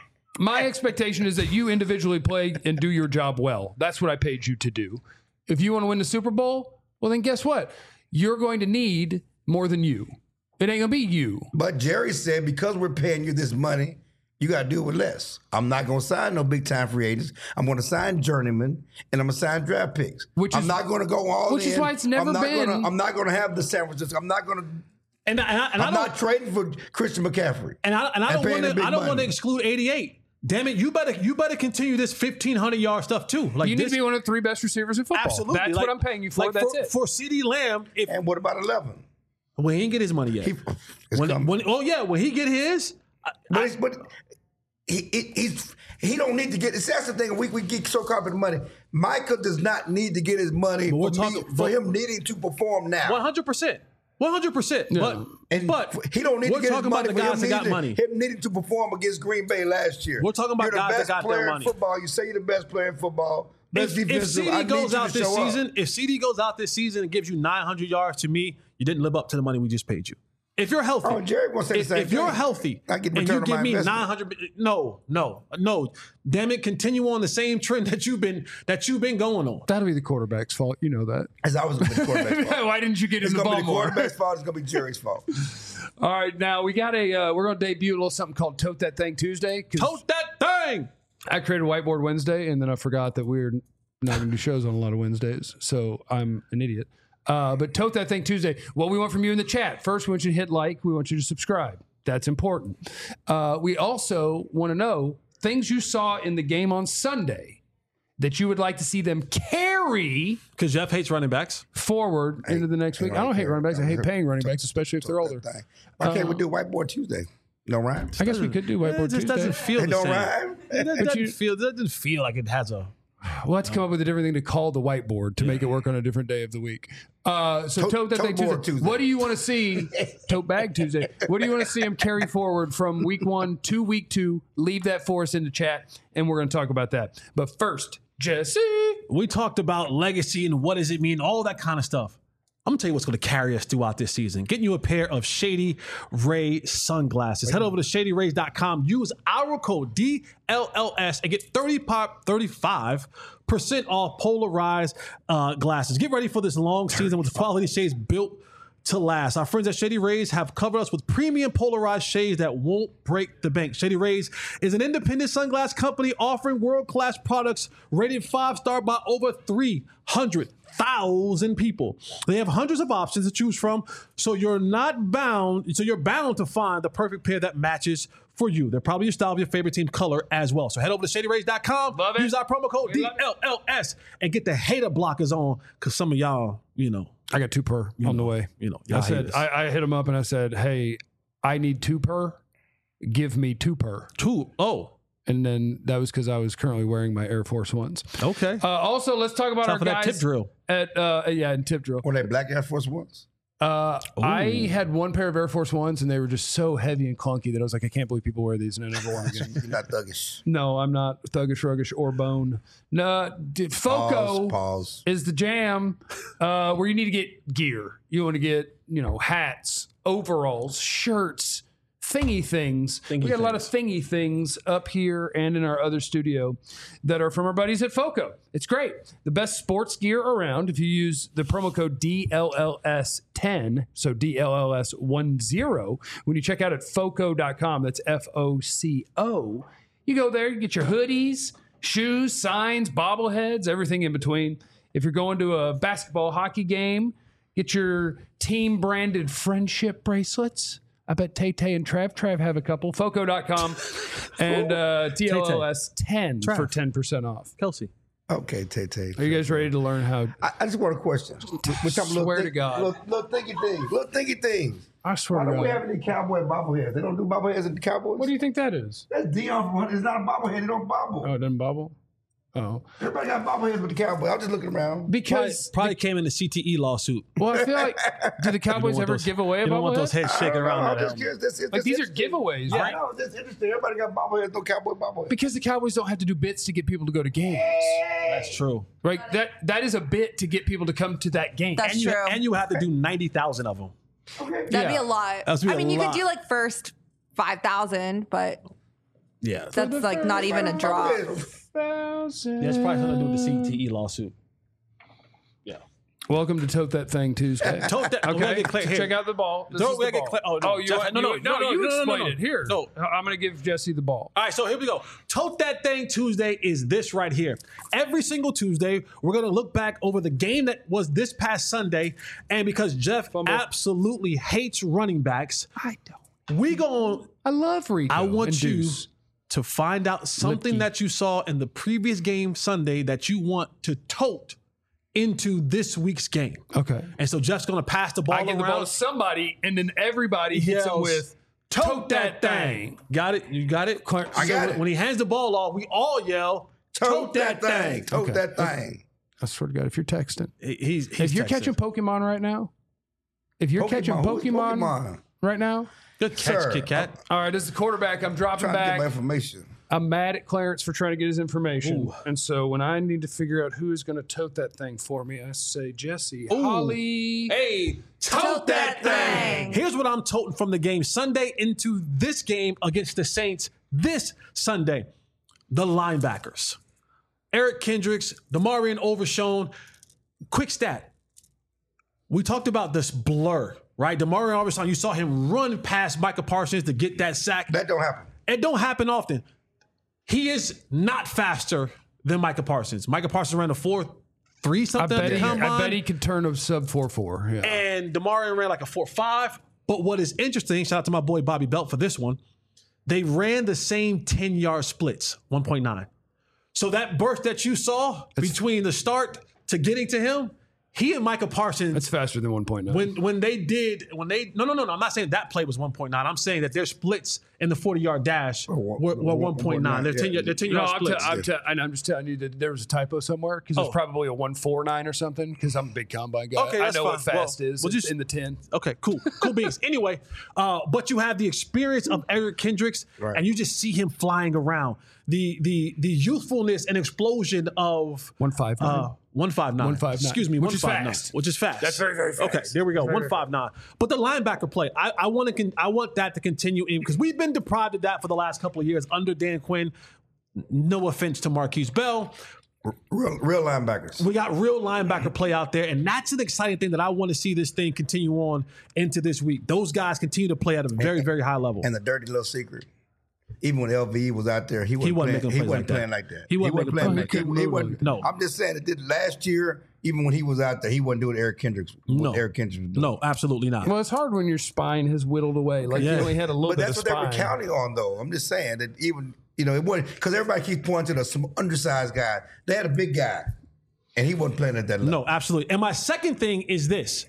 my expectation is that you individually play and do your job well. That's what I paid you to do. If you want to win the Super Bowl, well, then guess what? You're going to need more than you. It ain't going to be you. But Jerry said, because we're paying you this money, you got to do it with less. I'm not going to sign no big time free agents. I'm going to sign journeymen and I'm going to sign draft picks. Which I'm is- not going to go all which in. is why it's never I'm not been- Gonna, I'm not going to have the San Francisco. I'm not going to. And, I- and, I- and I I'm don't, not trading for Christian McCaffrey. and I, and I and don't paying want the to. big I don't want to money. exclude eighty-eight. Damn it! You better you better continue this fifteen hundred yard stuff too. Like You need this, to be one of the three best receivers in football. absolutely. That's Like- what I'm paying you for. like That's for, it. For CeeDee Lamb, if And what about eleven? well, he didn't get his money yet. He, it's when, coming. when, oh yeah, when he get his, I- But, it's, but he, he he's he don't need to get. See, that's the thing. We we get so caught up in money. Michael does not need to get his money But for, we're me- talking- for but- him needing to perform now. one hundred percent, one hundred percent. But And but he don't need we're to get his talking about money the for him guys that got needing, money. him needing to perform against Green Bay last year. We're talking about you're the guys that best got their player money. in football. You say you're the best player in football. Best If, if defensive. I CD need goes you out to this show up. season, if CD goes out this season and gives you nine hundred yards, to me, you didn't live up to the money we just paid you. If you're healthy, Oh, Jerry gonna say the if, same if you're thing. healthy I get and return you on give my me investment. nine hundred, no, no, no, damn it, continue on the same trend that you've been that you've been going on. That'll be the quarterback's fault. You know that. It's always going to be the quarterback's fault. Why didn't you get It's in the going to ball be the more? quarterback's fault. It's going to be Jerry's fault. All right, now we got a. Uh, we're going to debut a little something called Tote That Thing Tuesday. 'cause Tote that thing. I created Whiteboard Wednesday, and then I forgot that we're not going to do shows on a lot of Wednesdays, so I'm an idiot. Uh, but Tote That Thing Tuesday. What we want from you in the chat. First, we want you to hit like. We want you to subscribe. That's important. Uh, we also want to know things you saw in the game on Sunday that you would like to see them carry Because Jeff hates running backs. forward into the next week. I don't hate running backs. I hate paying running backs, especially if they're older. Thing. Why can't we do Whiteboard Tuesday? No rhymes. I guess we could do It Whiteboard just Tuesday. doesn't feel It the don't same. rhyme. It But doesn't you- feel. It doesn't feel like it has a. We'll have to come up with a different thing to call the whiteboard to make it work on a different day of the week. Uh, so Tote- tote that tote thing Tuesday. board Tuesday. What do you want to see? Tote bag Tuesday. What do you want to see him carry forward from week one to week two? Leave that for us in the chat, and we're going to talk about that. But first, Jesse. We talked about legacy and what does it mean, all that kind of stuff. I'm gonna tell you what's gonna carry us throughout this season. Getting you a pair of Shady Ray sunglasses. Head over to shady rays dot com. Use our code D L L S and get thirty-five percent off polarized uh, glasses. Get ready for this long season with quality shades built to last. Our friends at Shady Rays have covered us with premium polarized shades that won't break the bank. Shady Rays is an independent sunglass company offering world-class products rated five-star by over three hundred thousand people. They have hundreds of options to choose from, so you're not bound, so you're bound to find the perfect pair that matches for you. They're probably your style of your favorite team color as well. So head over to shady rays dot com, Love it. use our promo code We D love it. L L S, and get the hater blockers on, because some of y'all, you know, I got two per on the way. you know, I y'all said haters. I, I hit him up and I said, "Hey, I need two per. Give me two per." two. Oh, And then that was because I was currently wearing my Air Force Ones. okay. Uh, also, let's talk about Time our for that guys tip drill. at uh, yeah, and tip drill. Were they black Air Force Ones? Uh, I had one pair of Air Force Ones, and they were just so heavy and clunky that I was like, I can't believe people wear these, and I never wore them again. You're not thuggish. No, I'm not thuggish, ruggish, or bone. No, d- Foco Pause. Pause. is the jam uh, where you need to get gear. You want to get, you know, hats, overalls, shirts, thingy things. Thingy we got a lot of thingy things up here and in our other studio that are from our buddies at Foco. It's great. The best sports gear around. If you use the promo code D L L S ten, so D L L S ten, when you check out at foco dot com, that's F O C O, you go there, you get your hoodies, shoes, signs, bobbleheads, everything in between. If you're going to a basketball, hockey game, get your team branded friendship bracelets. I bet Tay Tay and Trev, Trev have a couple. Foco dot com and uh, T L L S ten Trev. for ten percent off. Kelsey. Okay, Tay Tay. Are you guys ready to learn how? I, I just want a question. Which I'm Swear to God. Little, little thinky things. Little thinky things. I swear Why to don't we God. have any cowboy bobbleheads? They don't do bobbleheads at the Cowboys? What do you think that is? That's Dion from It's not a bobblehead. They don't bobble. Oh, it doesn't bobble? Oh, Everybody got bobbleheads with the Cowboys. I'm just looking around. Probably, because probably came in the C T E lawsuit. well, I feel like did the Cowboys want ever those- give away a You don't want those bobblehead? heads I shaking don't know. around I'm that just helmet. curious. This, it's Like just these are interesting. giveaways, I right? know. It's just interesting. Everybody got bobbleheads, no Cowboy bobbleheads. Because the Cowboys don't have to do bits to get people to go to games. That's true. Right? That that is a bit to get people to come to that game. That's And you, true. and you have to do ninety thousand of them. Okay. That'd be Yeah. a lot. That's be I a mean, you lot. could do like first five thousand, but Yeah. that's like not even a drop. Thousand. Yeah, it's probably something to do with the C T E lawsuit. Yeah. Welcome to Tote That Thing Tuesday. Tote that. we gotta Okay, get clear so here. check out the ball. This Don't is we the gotta get ball. clear- oh, no, you Jeff- want- no, no, you- no, no, you no, no, explain no, no. it. Here. No. I'm going to give Jesse the ball. All right, so here we go. Tote That Thing Tuesday is this right here. Every single Tuesday, we're going to look back over the game that was this past Sunday. And because Jeff Fumble. absolutely hates running backs, I don't. we going I love Rico. I want and you Deuce. to find out something Lipke. that you saw in the previous game Sunday that you want to tote into this week's game. Okay. And so Jeff's going to pass the ball I give around. the ball to somebody, and then everybody hits him Yells, with "Tote that thing." Got it? You got it? Clarence- I got So it. When he hands the ball off, we all yell, Tote that thing. Tote Okay. that thing. I swear to God, if you're texting, He- He's, he's if you're texting. catching Pokemon right now, if you're catching Who's Pokemon, Pokemon? right now, Good catch, Sir. Kit Kat. all right, as the quarterback, I'm dropping Trying to get my back. information. I'm mad at Clarence for trying to get his information. Ooh. And so when I need to figure out who is going to tote that thing for me, I say, Jesse, Ooh. Holly. Hey, Tote that thing. Here's what I'm toting from the game Sunday into this game against the Saints this Sunday. The linebackers. Eric Kendricks, Demarion Overshown. Quick stat. We talked about this blur, right? Demarion Overshown, you saw him run past Micah Parsons to get that sack. That don't happen. It don't happen often. He is not faster than Micah Parsons. Micah Parsons ran a four three I something at bet, the he, combine. I bet he could turn a sub four four. Yeah. And Demarion ran like a four five. But what is interesting, shout out to my boy Bobby Belt for this one, they ran the same ten-yard splits, one point nine. So that burst that you saw between the start to getting to him, he and Micah Parsons, That's faster than one point nine. when when they did, when they, no, no, no, no, I'm not saying that play was one point nine. I'm saying that their splits in the forty-yard dash were, were one point nine. They're ten-yard they're no, ten-yard I'm, splits. t- I'm, t- and I'm just telling you that there was a typo somewhere because it's Oh. probably a one four nine or something because I'm a big combine guy. Okay, I that's know what fine. fast Well, is. we'll It's just- in the ten. Okay, cool. Cool beans. Anyway, uh, but you have the experience of Eric Kendricks, Right. and you just see him flying around. The the the youthfulness and explosion of one five nine. uh, one five nine. one five nine. Excuse me, Which one is five nine. fast. Which is fast. That's very, very fast. Okay, there we go. one five nine. But the linebacker play, I, I want to con- I want that to continue in because we've been deprived of that for the last couple of years under Dan Quinn. No offense to Marquise Bell. Real, real linebackers. We got real linebacker play out there, and that's an exciting thing that I want to see this thing continue on into this week. Those guys continue to play at a very, very high level. And the dirty little secret. Even when L V was out there, he wasn't, wasn't playing, making he plays wasn't like that. playing like that. He wasn't making playing plays like like that. that. He wasn't- No. I'm just saying that did last year, even when he was out there, he wasn't doing Eric Kendricks. No. What Eric Kendricks was doing. No, absolutely not. Well, it's hard when your spine has whittled away. Like Yeah. you only had a little But bit that's of what they spine. were counting on, though. I'm just saying that even, you know, it wasn't, because everybody keeps pointing to the, some undersized guy. They had a big guy, and he wasn't playing at that level. No, absolutely. And my second thing is this.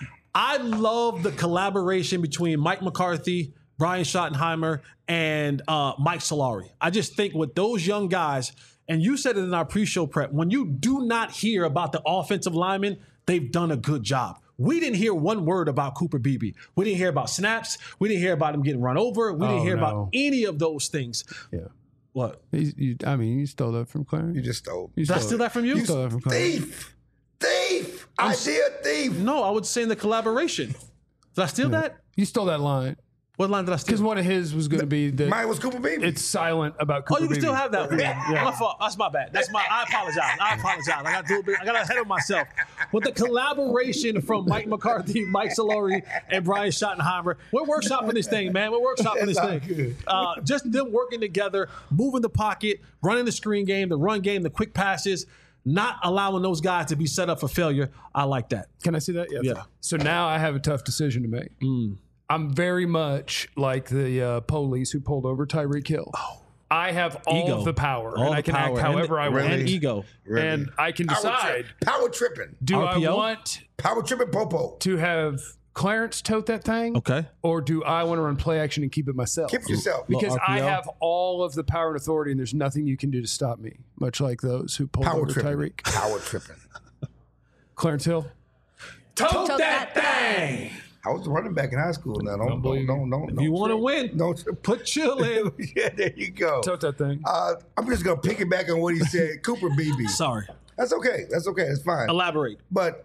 I love the collaboration between Mike McCarthy, Brian Schottenheimer, and uh, Mike Solari. I just think with those young guys, and you said it in our pre-show prep, when you do not hear about the offensive linemen, they've done a good job. We didn't hear one word about Cooper Beebe. We didn't hear about snaps. We didn't hear about him getting run over. We didn't Oh, hear no. about any of those things. Yeah. What? He's, you, I mean, you stole that from Clarence. You just stole. You Did I stole steal it. that from you? You stole that from Clarence. Thief! Thief! Idea thief! No, I would say in the collaboration. Did I steal that? You stole that line What line did I steal? because one of his was going to be that Mine was Cooper Beebe. it's silent about Cooper Oh, you can Beebe. still have that one. My fault. That's my bad. That's my. I apologize. I apologize. I got to do a bit. I got ahead of myself. With the collaboration from Mike McCarthy, Mike Solari, and Brian Schottenheimer, we're workshopping this thing, man. We're workshopping this It's all thing. good. Uh, just them working together, moving the pocket, running the screen game, the run game, the quick passes, not allowing those guys to be set up for failure. I like that. Can I see that? Yes. Yeah. So now I have a tough decision to make. I'm very much like the uh, police who pulled over Tyreek Hill. I have all Ego. of the power, All and the I can power. act And- however I want. And Really? ego. Really? And I can Power decide, trip- Power tripping. do R P O? I want Power tripping Popo. to have Clarence tote that thing? Okay. Or do I want to run play action and keep it myself? Keep it yourself. Because Little I R P O. have all of the power and authority, and there's nothing you can do to stop me, much like those who pulled Power over tripping. Tyreek. Power tripping. Clarence Hill. Tote, Tote that thing. I was a running back in high school. Now don't don't don't don't. If you want to win, don't put chill in. yeah, there you go. Tote that thing. Uh, I'm just gonna piggyback on what he said. Cooper Beebe. Sorry. That's okay. That's okay. It's fine. Elaborate. But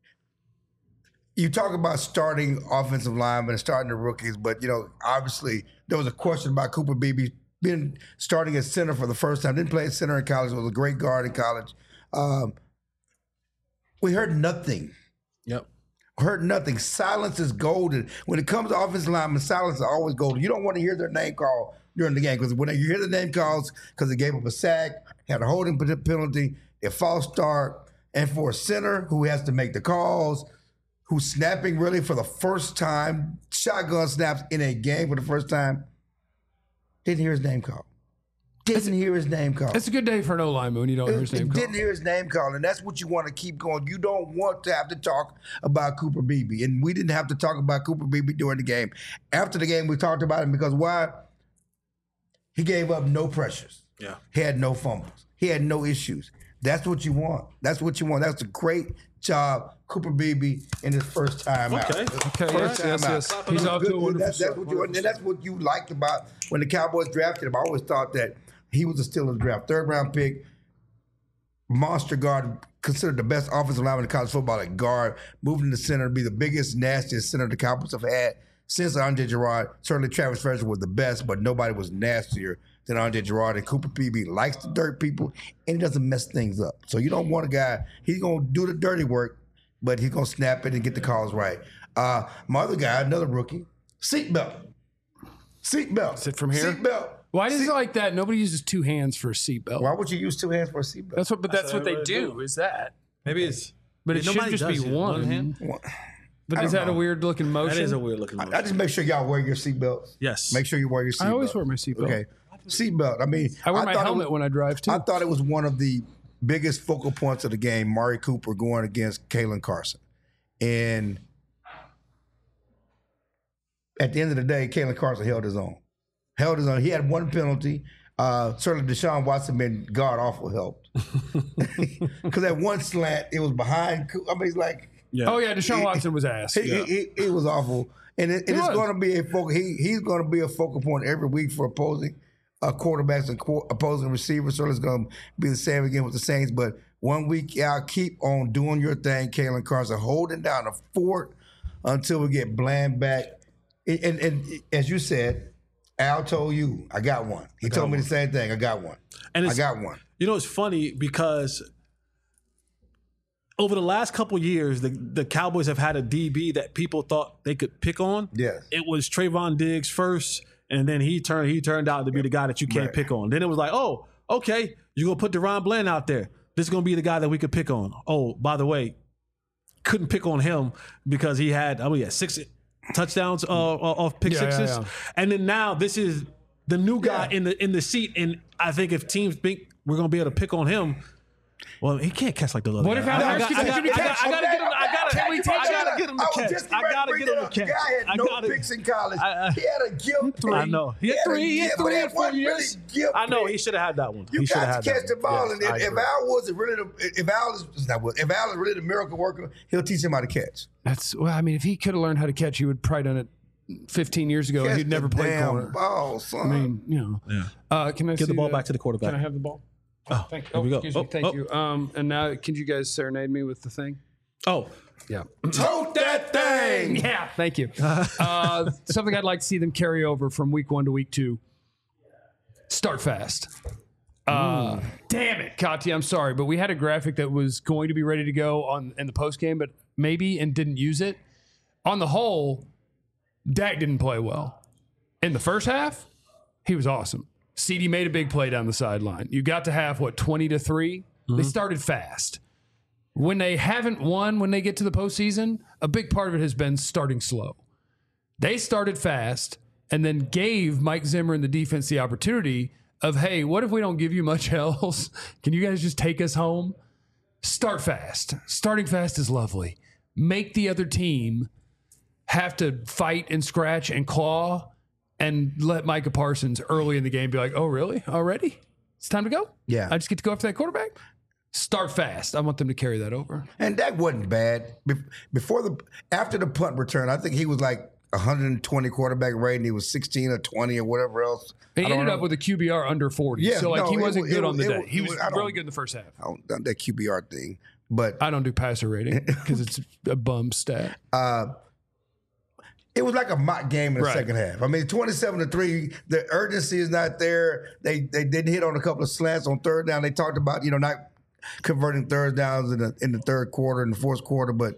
you talk about starting offensive linemen and starting the rookies, but you know, obviously there was a question about Cooper Beebe being starting at center for the first time. Didn't play at center in college. Was a great guard in college. Um, we heard nothing. Yep. Heard nothing. Silence is golden. When it comes to offensive linemen, silence is always golden. You don't want to hear their name called during the game because when you hear the name calls because they gave up a sack, had a holding penalty, a false start, and for a center who has to make the calls, who's snapping really for the first time, shotgun snaps in a game for the first time, didn't hear his name called. Didn't hear his name called. It's a good day for an O-lineman when you don't hear his name called. Didn't hear his name called, and that's what you want to keep going. You don't want to have to talk about Cooper Beebe, and we didn't have to talk about Cooper Beebe during the game. After the game, we talked about him because why? He gave up no pressures. Yeah. He had no fumbles. He had no issues. That's what you want. That's what you want. That's a great job, Cooper Beebe, in his first time out. Okay. Okay, First yes, time yes, out. yes. He's off to a wonderful That's, that's start. what you and that's what you liked about when the Cowboys drafted him. I always thought that he was a steal of the draft. Third round pick, monster guard, considered the best offensive lineman in college football at guard, moving to center to be the biggest, nastiest center the Cowboys have had since Andre Gerard. Certainly Travis Frederick was the best, but nobody was nastier than Andre Gerard. And Cooper Beebe likes the dirt people, and he doesn't mess things up. So you don't want a guy, he's going to do the dirty work, but he's going to snap it and get the calls right. Uh, my other guy, another rookie, seatbelt. Seatbelt. Sit from here? Seatbelt. Why is it like that? Nobody uses two hands for a seatbelt. Why would you use two hands for a seatbelt? That's what, but that's, That's what they what they do. do. Is that? Maybe it's. But it should Nobody just be does it. one. hand. But I is don't that a know. weird looking motion? That is a weird looking. I, I just make sure y'all wear your seatbelts. Yes. Make sure you wear your seatbelt. I always wear my seatbelt. Okay. Seatbelt. I mean, I wear my thought it helmet was- when I drive too. I thought it was one of the biggest focal points of the game, Mari Cooper going against Kalen Carson. And at the end of the day, Kalen Carson held his own. Held his own. He had one penalty. Uh, certainly Deshaun Watson been god awful helped. Because that one slant, it was behind. Coo- I mean, it's like, Yeah. Oh yeah, Deshaun Watson was ass. he, he, he, he was awful. And it, it is was. going to be a focal. He, he's going to be a focal point every week for opposing uh, quarterbacks and qu- opposing receivers. So it's going to be the same again with the Saints. But one week out, keep on doing your thing, Kalen Carson, holding down the fort until we get Bland back. And, and, and as you said, Al told you, I got one. He told me the same thing. I got one. And I it's, got one. You know, it's funny because over the last couple years, the, the Cowboys have had a D B that people thought they could pick on. Yes. It was Trayvon Diggs first, and then he turned he turned out to be the guy that you can't Right. pick on. Then it was like, oh, okay, you're gonna put Deron Bland out there. This is gonna be the guy that we could pick on. Oh, by the way, couldn't pick on him because he had I mean, he had six touchdowns uh, off pick Yeah, yeah, sixes, yeah. and then now this is the new guy Yeah. in the in the seat. And I think if teams think we're gonna be able to pick on him, well, he can't catch like the other What if guy. Al I, got, Hurst I, can got, catch I, him? got, I gotta get him. I gotta. Can we I take gotta that? get him to I was catch. just I getting gotta ready get to him to bring catch. that up. The guy had I no gotta- picks in college. I- I- he had a gift. I know. He had a three. He had gift, three but in that four wasn't really years. gift I know. pick. He should have had that one. You he should have got had to catch that the one. ball, Yes, and I if, if agree. Al was really the, if Al is it's not what- if Al is really the miracle worker, he'll teach him how to catch. That's well. I mean, if he could have learned how to catch, he would probably done it fifteen years ago. Catch He'd never the played damn corner. ball, son. I mean, you know. Yeah. Uh, can I Get the see ball back to the quarterback. Can I have the ball? Oh, thank you. here Oh, we go. excuse Oh, me. Thank oh. you. Um, and now, can you guys serenade me with the thing? Oh, Yeah. Tote that thing. Yeah. Thank you. Uh, something I'd like to see them carry over from week one to week two. Start fast. Uh, damn it, Kati, I'm sorry, but we had a graphic that was going to be ready to go on in the post game, but maybe and didn't use it. On the whole, Dak didn't play well. In the first half, he was awesome. C D made a big play down the sideline. You got to half, what, twenty to three? They started fast. When they haven't won, when they get to the postseason, a big part of it has been starting slow. They started fast and then gave Mike Zimmer and the defense the opportunity of, hey, what if we don't give you much else? Can you guys just take us home? Start fast. Starting fast is lovely. Make the other team have to fight and scratch and claw and let Micah Parsons early in the game be like, oh, really? Already? It's time to go? Yeah. I just get to go after that quarterback? Start fast. I want them to carry that over. And that wasn't bad. Be- Before the after the punt return, I think he was like one hundred twenty quarterback rating. He was sixteen or twenty or whatever else. He I don't ended know. up with a Q B R under forty. Yeah, so, like, no, he it wasn't was- good it on the was- day. it was- He it was was- I don't- really good in the first half. I don't done that Q B R thing, but I don't do passer rating because it's a bum stat. uh, it was like a mock game in the Right. second half. I mean, twenty-seven to three, the urgency is not there. They they didn't hit on a couple of slants on third down. They talked about, you know, not converting third downs in the in the third quarter and the fourth quarter, but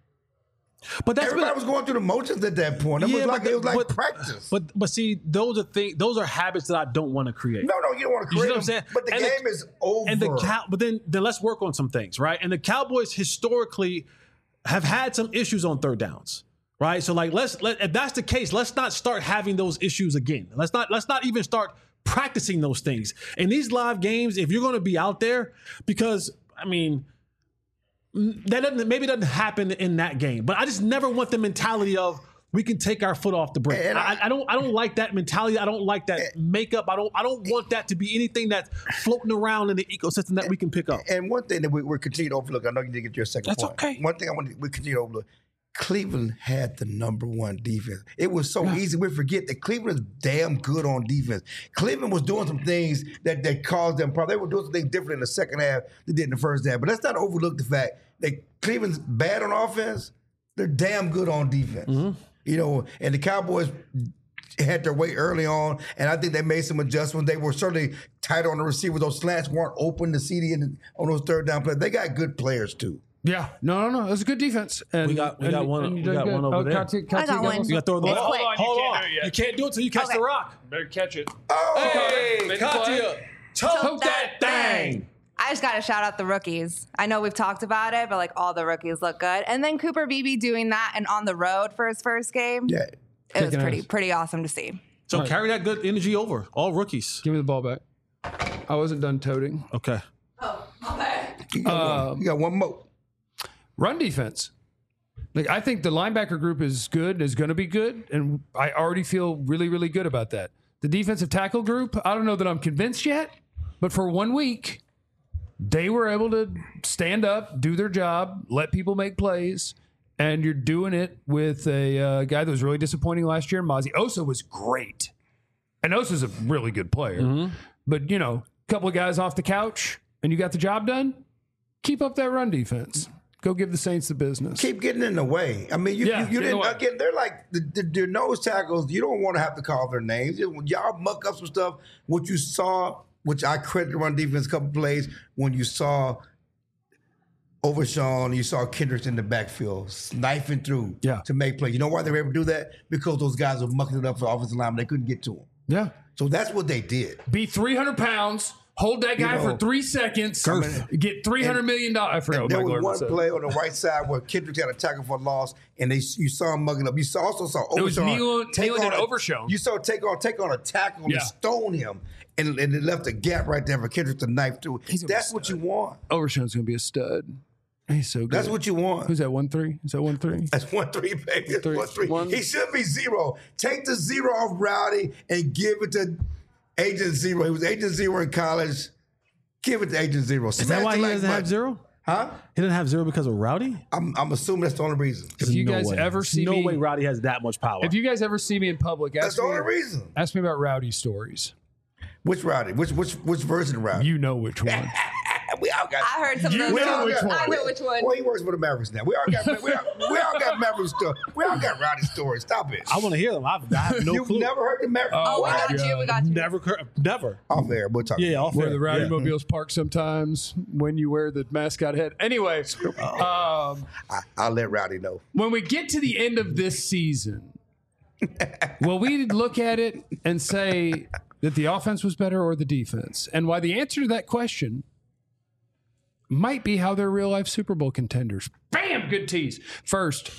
But that's everybody been, was going through the motions at that point. It Yeah, was like but- it was like but- practice. But but see, those are things. Those are habits that I don't want to create. no, no, you don't want to You see create what I'm them, saying? but the And the- game is over. And the cow, but then then let's work on some things, right? And the Cowboys historically have had some issues on third downs, right? So like let's let if that's the case, let's not start having those issues again. Let's not let's not even start practicing those things in these live games. If you're going to be out there, because I mean. That doesn't maybe doesn't happen in that game, but I just never want the mentality of we can take our foot off the brake. And I, I- I don't I don't like that mentality. I don't like that makeup. I don't I don't want that to be anything that's floating around in the ecosystem that we can pick up. And one thing that we, we're continuing to overlook, I know you didn't get your second That's point. okay. One thing I want to, we continue to overlook, Cleveland had the number one defense. It was so easy. We forget that Cleveland is damn good on defense. Cleveland was doing some things that, that caused them problems. They were doing some things different in the second half than they did in the first half. But let's not overlook the fact that Cleveland's bad on offense. They're damn good on defense. Mm-hmm. You know, and the Cowboys had their way early on, and I think they made some adjustments. They were certainly tight on the receiver. Those slants weren't open to C D in, on those third down plays. They got good players too. Yeah, no, no, no. It was a good defense. And, We got- we and- got one- and you we did got good. one over oh, there. Kati- I Kati got one. You got to throw the It's ball. quick. Hold You can't on, do it yet. you can't do it until you catch Okay. the rock. Better catch it. Oh, Hey, Make the play. Katia, choke that thing. I just got to shout out the rookies. I know we've talked about it, but like all the rookies look good. And then Cooper Beebe doing that and on the road for his first game. yeah. It was Kicking pretty ass. pretty awesome to see. So carry that good energy over. All rookies. Give me the ball back. I wasn't done toting. Okay. You got, one. You got one more. Run defense. Like, I think the linebacker group is good, is going to be good, and I already feel really, really good about that. The defensive tackle group, I don't know that I'm convinced yet, but for one week, they were able to stand up, do their job, let people make plays, and you're doing it with a uh, guy that was really disappointing last year. Mozzie Osa was great, and Osa's a really good player. But, you know, a couple of guys off the couch, and you got the job done. Keep up that run defense. Go give the Saints the business. Keep getting in the way. I mean, you, Yeah, you, you get in the didn't way. again. They're like the, the, the nose tackles. You don't want to have to call their names. Y'all muck up some stuff. What you saw, which I credit the run defense, a couple plays when you saw Overshawn, you saw Kendricks in the backfield sniping through Yeah. to make plays. You know why they were able to do that? Because those guys were mucking it up for offensive linemen. They couldn't get to them. Yeah. So that's what they did. Be three hundred pounds, hold that guy You know, for three seconds, Girth. get three hundred million dollars. I forgot what There Mike was Gordon one said. play on the right side where Kendricks had a tackle for a loss, and they you saw him mugging up. You saw, also saw Overshawn It was Nealon- take Nealon on and a- Overshown. You saw take on take on a tackle Yeah. and stone him, and, and it left a gap right there for Kendricks to knife through. He's gonna That's be what you want. Overshown's going to be a stud. He's so good. That's what you want. Who's that, one three? Is that one three? That's one three, baby. That's Three. one three. One. He should be zero. Take the zero off Rowdy and give it to Agent Zero. He was Agent Zero in college. Give it to Agent Zero. Is that why he doesn't have zero? Huh? He didn't have zero because of Rowdy? I'm, I'm assuming that's the only reason. If you no guys way. ever There's see no me, way Rowdy has that much power. if you guys ever see me in public, That's ask the me, only reason. ask me about Rowdy stories. Which Rowdy? Which which which version of Rowdy? You know which one. we all got. I heard some You of those. know which too. one. I know which one. Well, he works for the Mavericks now. We all got we all, we all got Maverick stories. We all got Rowdy stories. Stop it. I want to hear them. I've, I have no You've clue. never heard the Mavericks? Oh, we my got you. We got you. Never, cur- never. Off air. We'll talk. Yeah, off Where air. the Rowdy Yeah. Mobiles park sometimes when you wear the mascot head. Anyway, um, I, I'll let Rowdy know. when we get to the end of this season, will we look at it and say that the offense was better or the defense? And why the answer to that question might be how they're real life Super Bowl contenders. Bam! Good tease. First,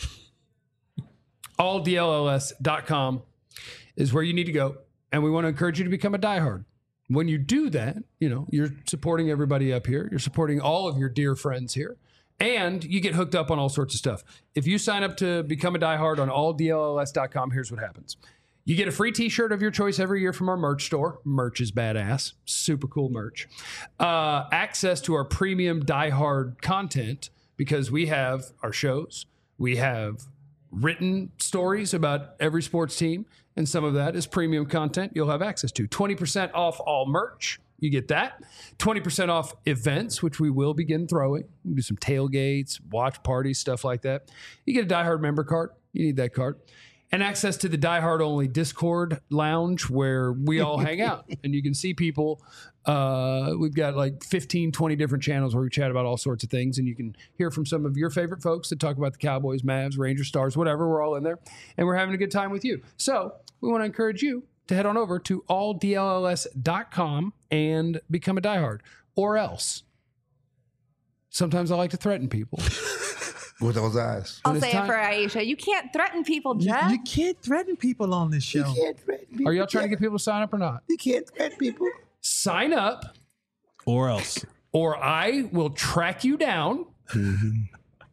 all D L L S dot com is where you need to go. And we want to encourage you to become a diehard. When you do that, you know, you're supporting everybody up here. You're supporting all of your dear friends here. And you get hooked up on all sorts of stuff. If you sign up to become a diehard on all D L L S dot com, here's what happens. You get a free t-shirt of your choice every year from our merch store. Merch is badass. Super cool merch. Uh, access to our premium diehard content because we have our shows. We have written stories about every sports team. And some of that is premium content you'll have access to. twenty percent off all merch. You get that. twenty percent off events, which we will begin throwing. We'll do some tailgates, watch parties, stuff like that. You get a Die Hard member card. You need that card. And access to the Die Hard only Discord lounge where we all hang out. And you can see people. Uh, we've got like fifteen, twenty different channels where we chat about all sorts of things. And you can hear from some of your favorite folks that talk about the Cowboys, Mavs, Rangers, Stars, whatever. We're all in there. And we're having a good time with you. So we want to encourage you to head on over to all D L L S dot com and become a diehard. Or else, sometimes I like to threaten people. With those eyes. I'll When say it's it for Aisha. You can't threaten people, You, Jeff. you can't threaten people on this show. You can't threaten people. Are y'all trying to get people to sign up or not? You can't threaten people. Sign up, Or else. or I will track you down and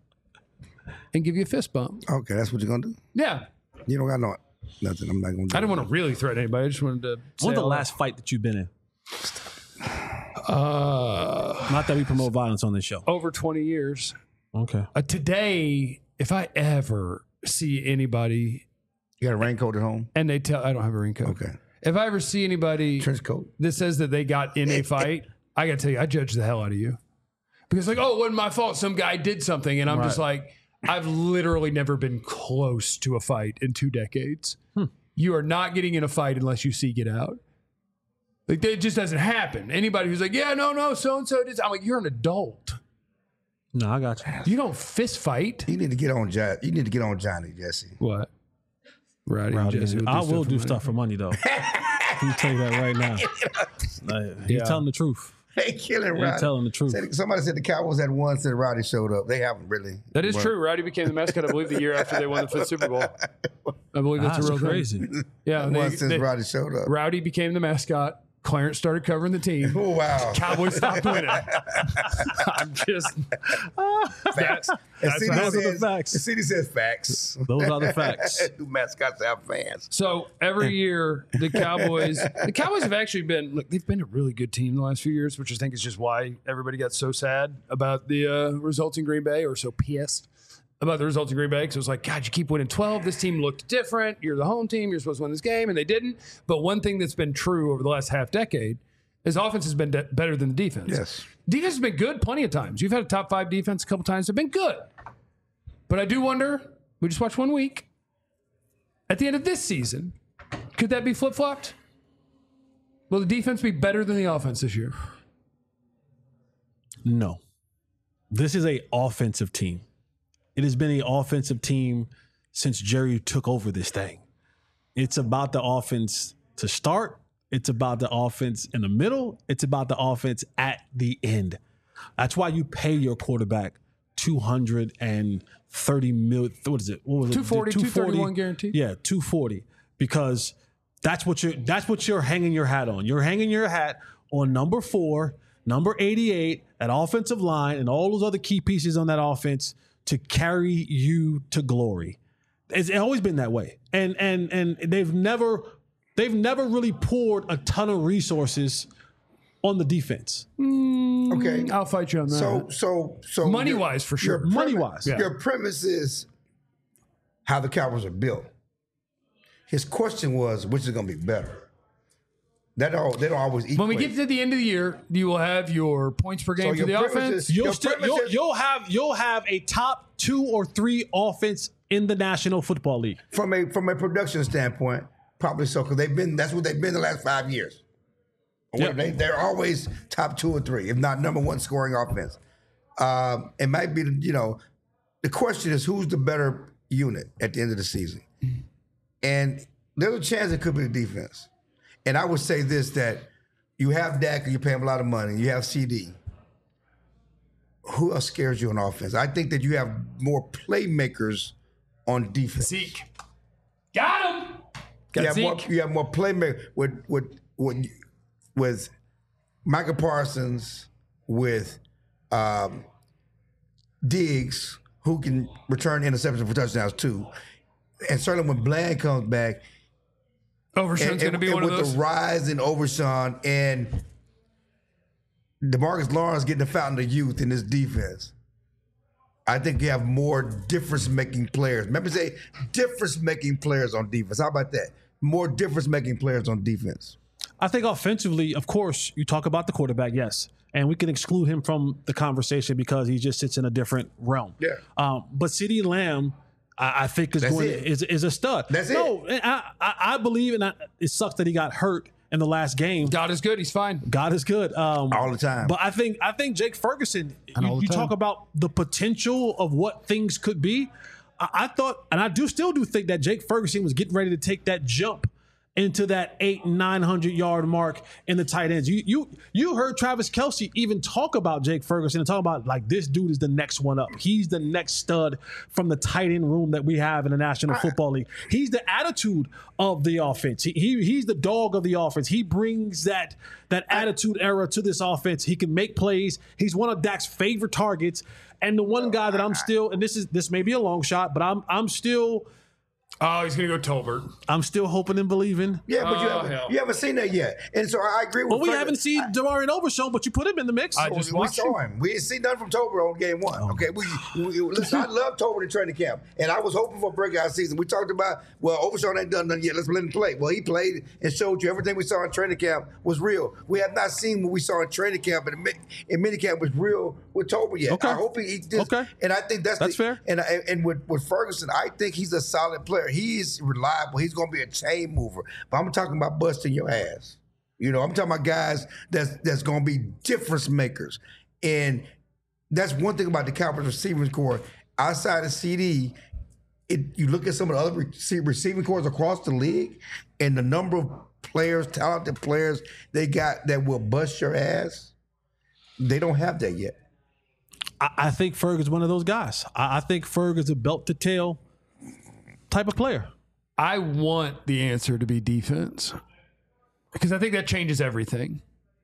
give you a fist bump. Okay, that's what you're gonna do. Yeah. You don't got no nothing. I'm not gonna do. I didn't want to really threaten anybody. I just wanted to. say When's the all last fight that you've been in? that. Uh, Not that we promote violence on this show. over twenty years. Okay. Uh, today, if I ever see anybody You got a raincoat at home? and they tell, I don't have a raincoat. Okay. If I ever see anybody Trench coat. that says that they got in a fight, I got to tell you, I judge the hell out of you. Because, like, oh, it wasn't my fault. Some guy did something. And I'm just like, I've literally never been close to a fight in two decades. Hmm. You are not getting in a fight unless you seek it out. Like, it just doesn't happen. Anybody who's like, yeah, no, no, so and so did. I'm like, you're an adult. No, I got you. You don't fist fight. You need to get on Johnny. You need to get on Johnny, Jesse. What? Rowdy, and Rowdy, Jesse I will for do money. stuff for money, though. Let me tell you that right now. Like, he's Yeah. telling the truth. They killing He's Rowdy. telling the truth. Said- Somebody said the Cowboys had one since Rowdy showed up. They haven't really. That is But- true. Rowdy became the mascot, I believe, the year after they won the fifth Super Bowl. I believe that's, That's a real crazy. thing. Yeah, One they, since they- Rowdy showed up. Rowdy became the mascot. Clarence started covering the team. Oh wow. Cowboys stopped winning. I'm just Facts. And that's C D how- Those are the says, facts. the city says facts. Those are the facts. Do mascots have fans? so every year the Cowboys, the Cowboys have actually been look. They've been a really good team the last few years, which I think is just why everybody got so sad about the uh, results in Green Bay, or so pissed about the results in Green Bay, because it was like, God, you keep winning twelve. This team looked different. You're the home team. You're supposed to win this game, and they didn't. But one thing that's been true over the last half decade is offense has been de- better than the defense. Yes. Defense has been good plenty of times. You've had a top five defense a couple times. They've been good. But I do wonder, we just watched one week. At the end of this season, could that be flip-flopped? Will the defense be better than the offense this year? No. This is a offensive team. It has been an offensive team since Jerry took over this thing. It's about the offense to start. It's about the offense in the middle. It's about the offense at the end. That's why you pay your quarterback two hundred thirty million. What is it? What was it? two forty, two thirty-one guaranteed. Yeah, two forty. Because that's what you're that's what you're hanging your hat on. You're hanging your hat on number four, number eighty-eight, that offensive line, and all those other key pieces on that offense to carry you to glory. It's always been that way. And and and they've never they've never really poured a ton of resources on the defense. Okay. I'll fight you on that. So so so Money your- wise, for sure. your Money premise- wise. Yeah. Your premise is how the Cowboys are built. His question was, which is going to be better? That all they don't always equate. when we get to the end of the year, you will have your points per game So for the your premise offense. is- You'll Your still premise you'll, is- you'll have you'll have a top two or three offense in the National Football League. from a from a production standpoint, probably so because they've been that's what they've been the last five years. Yeah. They, they're always top two or three, if not number one scoring offense. Um, it might be, you know, the question is who's the better unit at the end of the season, and there's a chance it could be the defense. And I would say this that you have Dak and you pay him a lot of money. You have C D. Who else scares you on offense? I think that you have more playmakers on defense. Zeke. Got him. Got you have, more, Zeke. you have more playmakers with with with with Michael Parsons, with um, Diggs, who can return interceptions for touchdowns too. And certainly when Bland comes back, Overshown's going to be and one with of those. the rise in Overshown and DeMarcus Lawrence getting the fountain of youth in this defense, I think you have more difference-making players. Remember, say difference-making players on defense. How about that? More difference-making players on defense. I think offensively, of course, you talk about the quarterback, yes. And we can exclude him from the conversation because he just sits in a different realm. Yeah. Um, but CeeDee Lamb, I, I think is That's going it. is is a stud. That's no, it. I, I, I believe, and I, it sucks that he got hurt in the last game. God is good. He's fine. God is good um, All the time. But I think I think Jake Ferguson. And You, all the you time. talk about the potential of what things could be. I, I thought, and I do still do think that Jake Ferguson was getting ready to take that jump into that eight nine hundred yard mark in the tight ends. You you you heard Travis Kelce even talk about Jake Ferguson and talk about like this dude is the next one up. He's the next stud from the tight end room that we have in the National Football League. He's the attitude of the offense. He, he he's the dog of the offense. He brings that that attitude era to this offense. He can make plays. He's one of Dak's favorite targets. And the one guy that I'm still, and this is this may be a long shot, but I'm I'm still. Oh, he's going to go Tolbert. I'm still hoping and believing. Yeah, but you, Oh, haven't, hell. you haven't seen that yet. And so I agree with Well, we Ferguson. haven't seen I- Damarian Overshown, but you put him in the mix. I just we watched saw him. We didn't see nothing from Tober on game one. Oh. Okay, we, we listen. I love Tober in training camp, and I was hoping for a breakout season. We talked about well, Overshown ain't done nothing yet. Let's let him play. Well, he played and showed you everything we saw in training camp was real. We have not seen what we saw in training camp and in, mi- in minicamp was real with Tober yet. Okay. I hope he, he just, Okay. and I think that's That's the, fair. And and, and with, with Ferguson, I think he's a solid player. He's reliable. He's going to be a chain mover. But I'm talking about busting your ass. You know, I'm talking about guys that's that's going to be difference makers. And that's one thing about the Cowboys receiving core. Outside of C D, it, you look at some of the other rece- receiving cores across the league and the number of players, talented players they got that will bust your ass. They don't have that yet. I, I think Ferg is one of those guys. I, I think Ferg is a belt to tail type of player. I want the answer to be defense because I think that changes everything.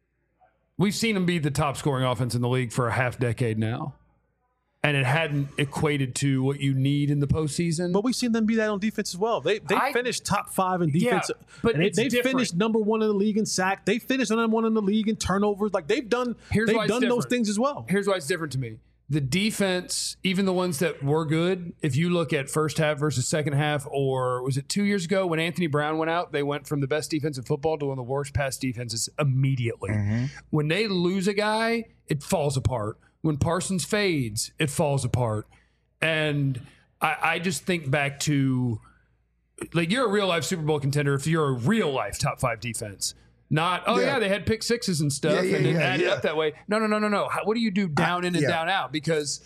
We've seen him be the top scoring offense in the league for a half decade now, and it hadn't equated to what you need in the postseason. But we've seen them be that on defense as well. They they I- finished top five in defense. Yeah, but and they, it's they different. finished number one in the league in sack. They finished number one in the league in turnovers. Like they've done Here's they've why it's done those different. things as well. Here's why it's different to me. The defense, even the ones that were good, if you look at first half versus second half, or was it two years ago when Anthony Brown went out, they went from the best defense in football to one of the worst pass defenses immediately. When they lose a guy, it falls apart. When Parsons fades, it falls apart. And I, I just think back to, like, you're a real life Super Bowl contender if you're a real life top five defense. Not, oh, yeah, Yeah. they had pick sixes and stuff Yeah, yeah, and it yeah, added yeah. up that way. No, no, no, no, no. How, what do you do down in and yeah. down out? Because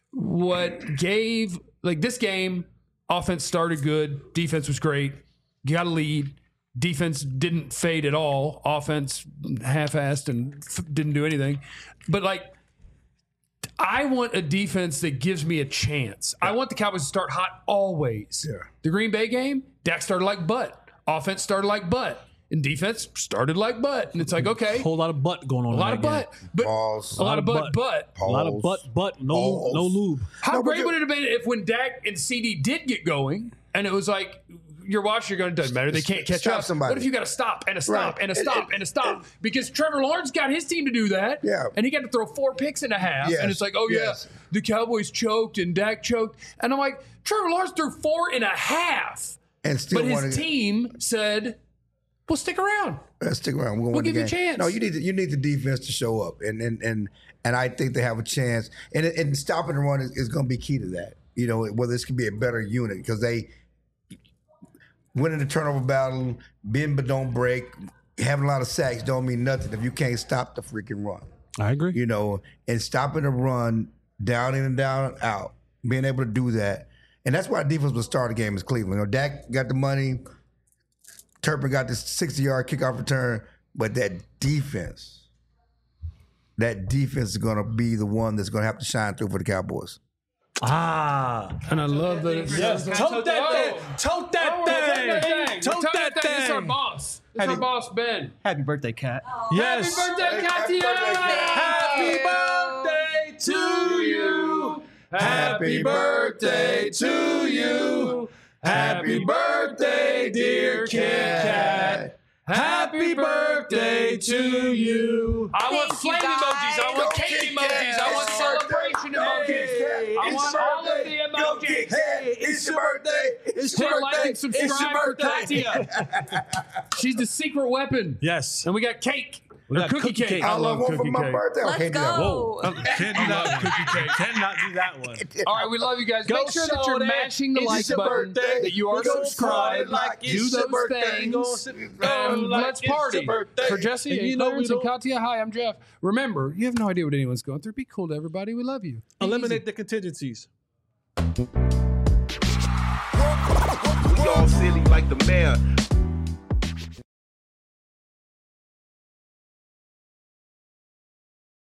what gave, like, this game, offense started good, defense was great, you got a lead, defense didn't fade at all, offense half-assed and f- didn't do anything. But, like, I want a defense that gives me a chance. I want the Cowboys to start hot always. Yeah. The Green Bay game, Dak started like butt. Offense started like butt. And defense started like butt. And it's like, okay, A whole lot of butt going on. a lot of butt. But Balls. a lot of butt, butt. but A lot of Balls. butt, butt, no, Balls. no lube. how No, but great you- would it have been if when Dak and C D did get going and it was like, you're watching, you're going, it doesn't matter. They can't catch Stop up. somebody. What if you got to stop and a stop Right. and a And- stop and- and a stop? and- Because Trevor Lawrence got his team to do that. Yeah. And he got to throw four picks and a half. Yes. And it's like, oh, Yes. yeah, the Cowboys choked and Dak choked. And I'm like, Trevor Lawrence threw four and a half. And still But his wanna- team said, well, stick around. Let's stick around. We're gonna We'll win the give you a game. chance. No, you need the, you need the defense to show up, and and and and I think they have a chance. And and stopping the run is, is going to be key to that. You know, whether this could be a better unit because they winning the turnover battle, bend but don't break, having a lot of sacks don't mean nothing if you can't stop the freaking run. I agree. You know, and stopping the run down in and down and out, being able to do that, and that's why defense will start the game is Cleveland. You know, Dak got the money. Turpin got this sixty-yard kickoff return, but that defense, that defense is going to be the one that's going to have to shine through for the Cowboys. Ah. And I love that it's Yes. Tote that thing. Tote that thing. Tote that This is our thing. boss. This is our boss, Ben. Happy birthday, Cat. Yes. Happy birthday, Happy Katia! birthday, Kat. Happy birthday to you. Happy birthday to you. Happy birthday, dear Kit Kat. Happy birthday to you. I want Thank you, flame guys. emojis. I want Go cake Kit emojis. Kat. I want It's celebration your birthday. emojis. I It's want your all of birthday. the Go emojis. Kit Kat. It's your birthday. It's Hit your like birthday. and subscribe It's your for birthday. Katia. She's the secret weapon. Yes. And we got cake. We Or got cookie, cookie cake. cake. I I love love one for cookie my cake. birthday. Let's Okay, do that. go. Can't do that cookie cake. Cannot do that one. All right, we love you guys. Go Make sure that you're Shorty. mashing the It's like your button, birthday. that you are We gonna subscribed, party like do it's your those birthday. We gonna things. sit And like let's it's your party. birthday. For Jesse And and you know we Clarence and don't- Katia, hi, I'm Jeff. Remember, you have no idea what anyone's going through. Be cool to everybody. We love you. Be Eliminate the contingencies. We all silly like the mayor.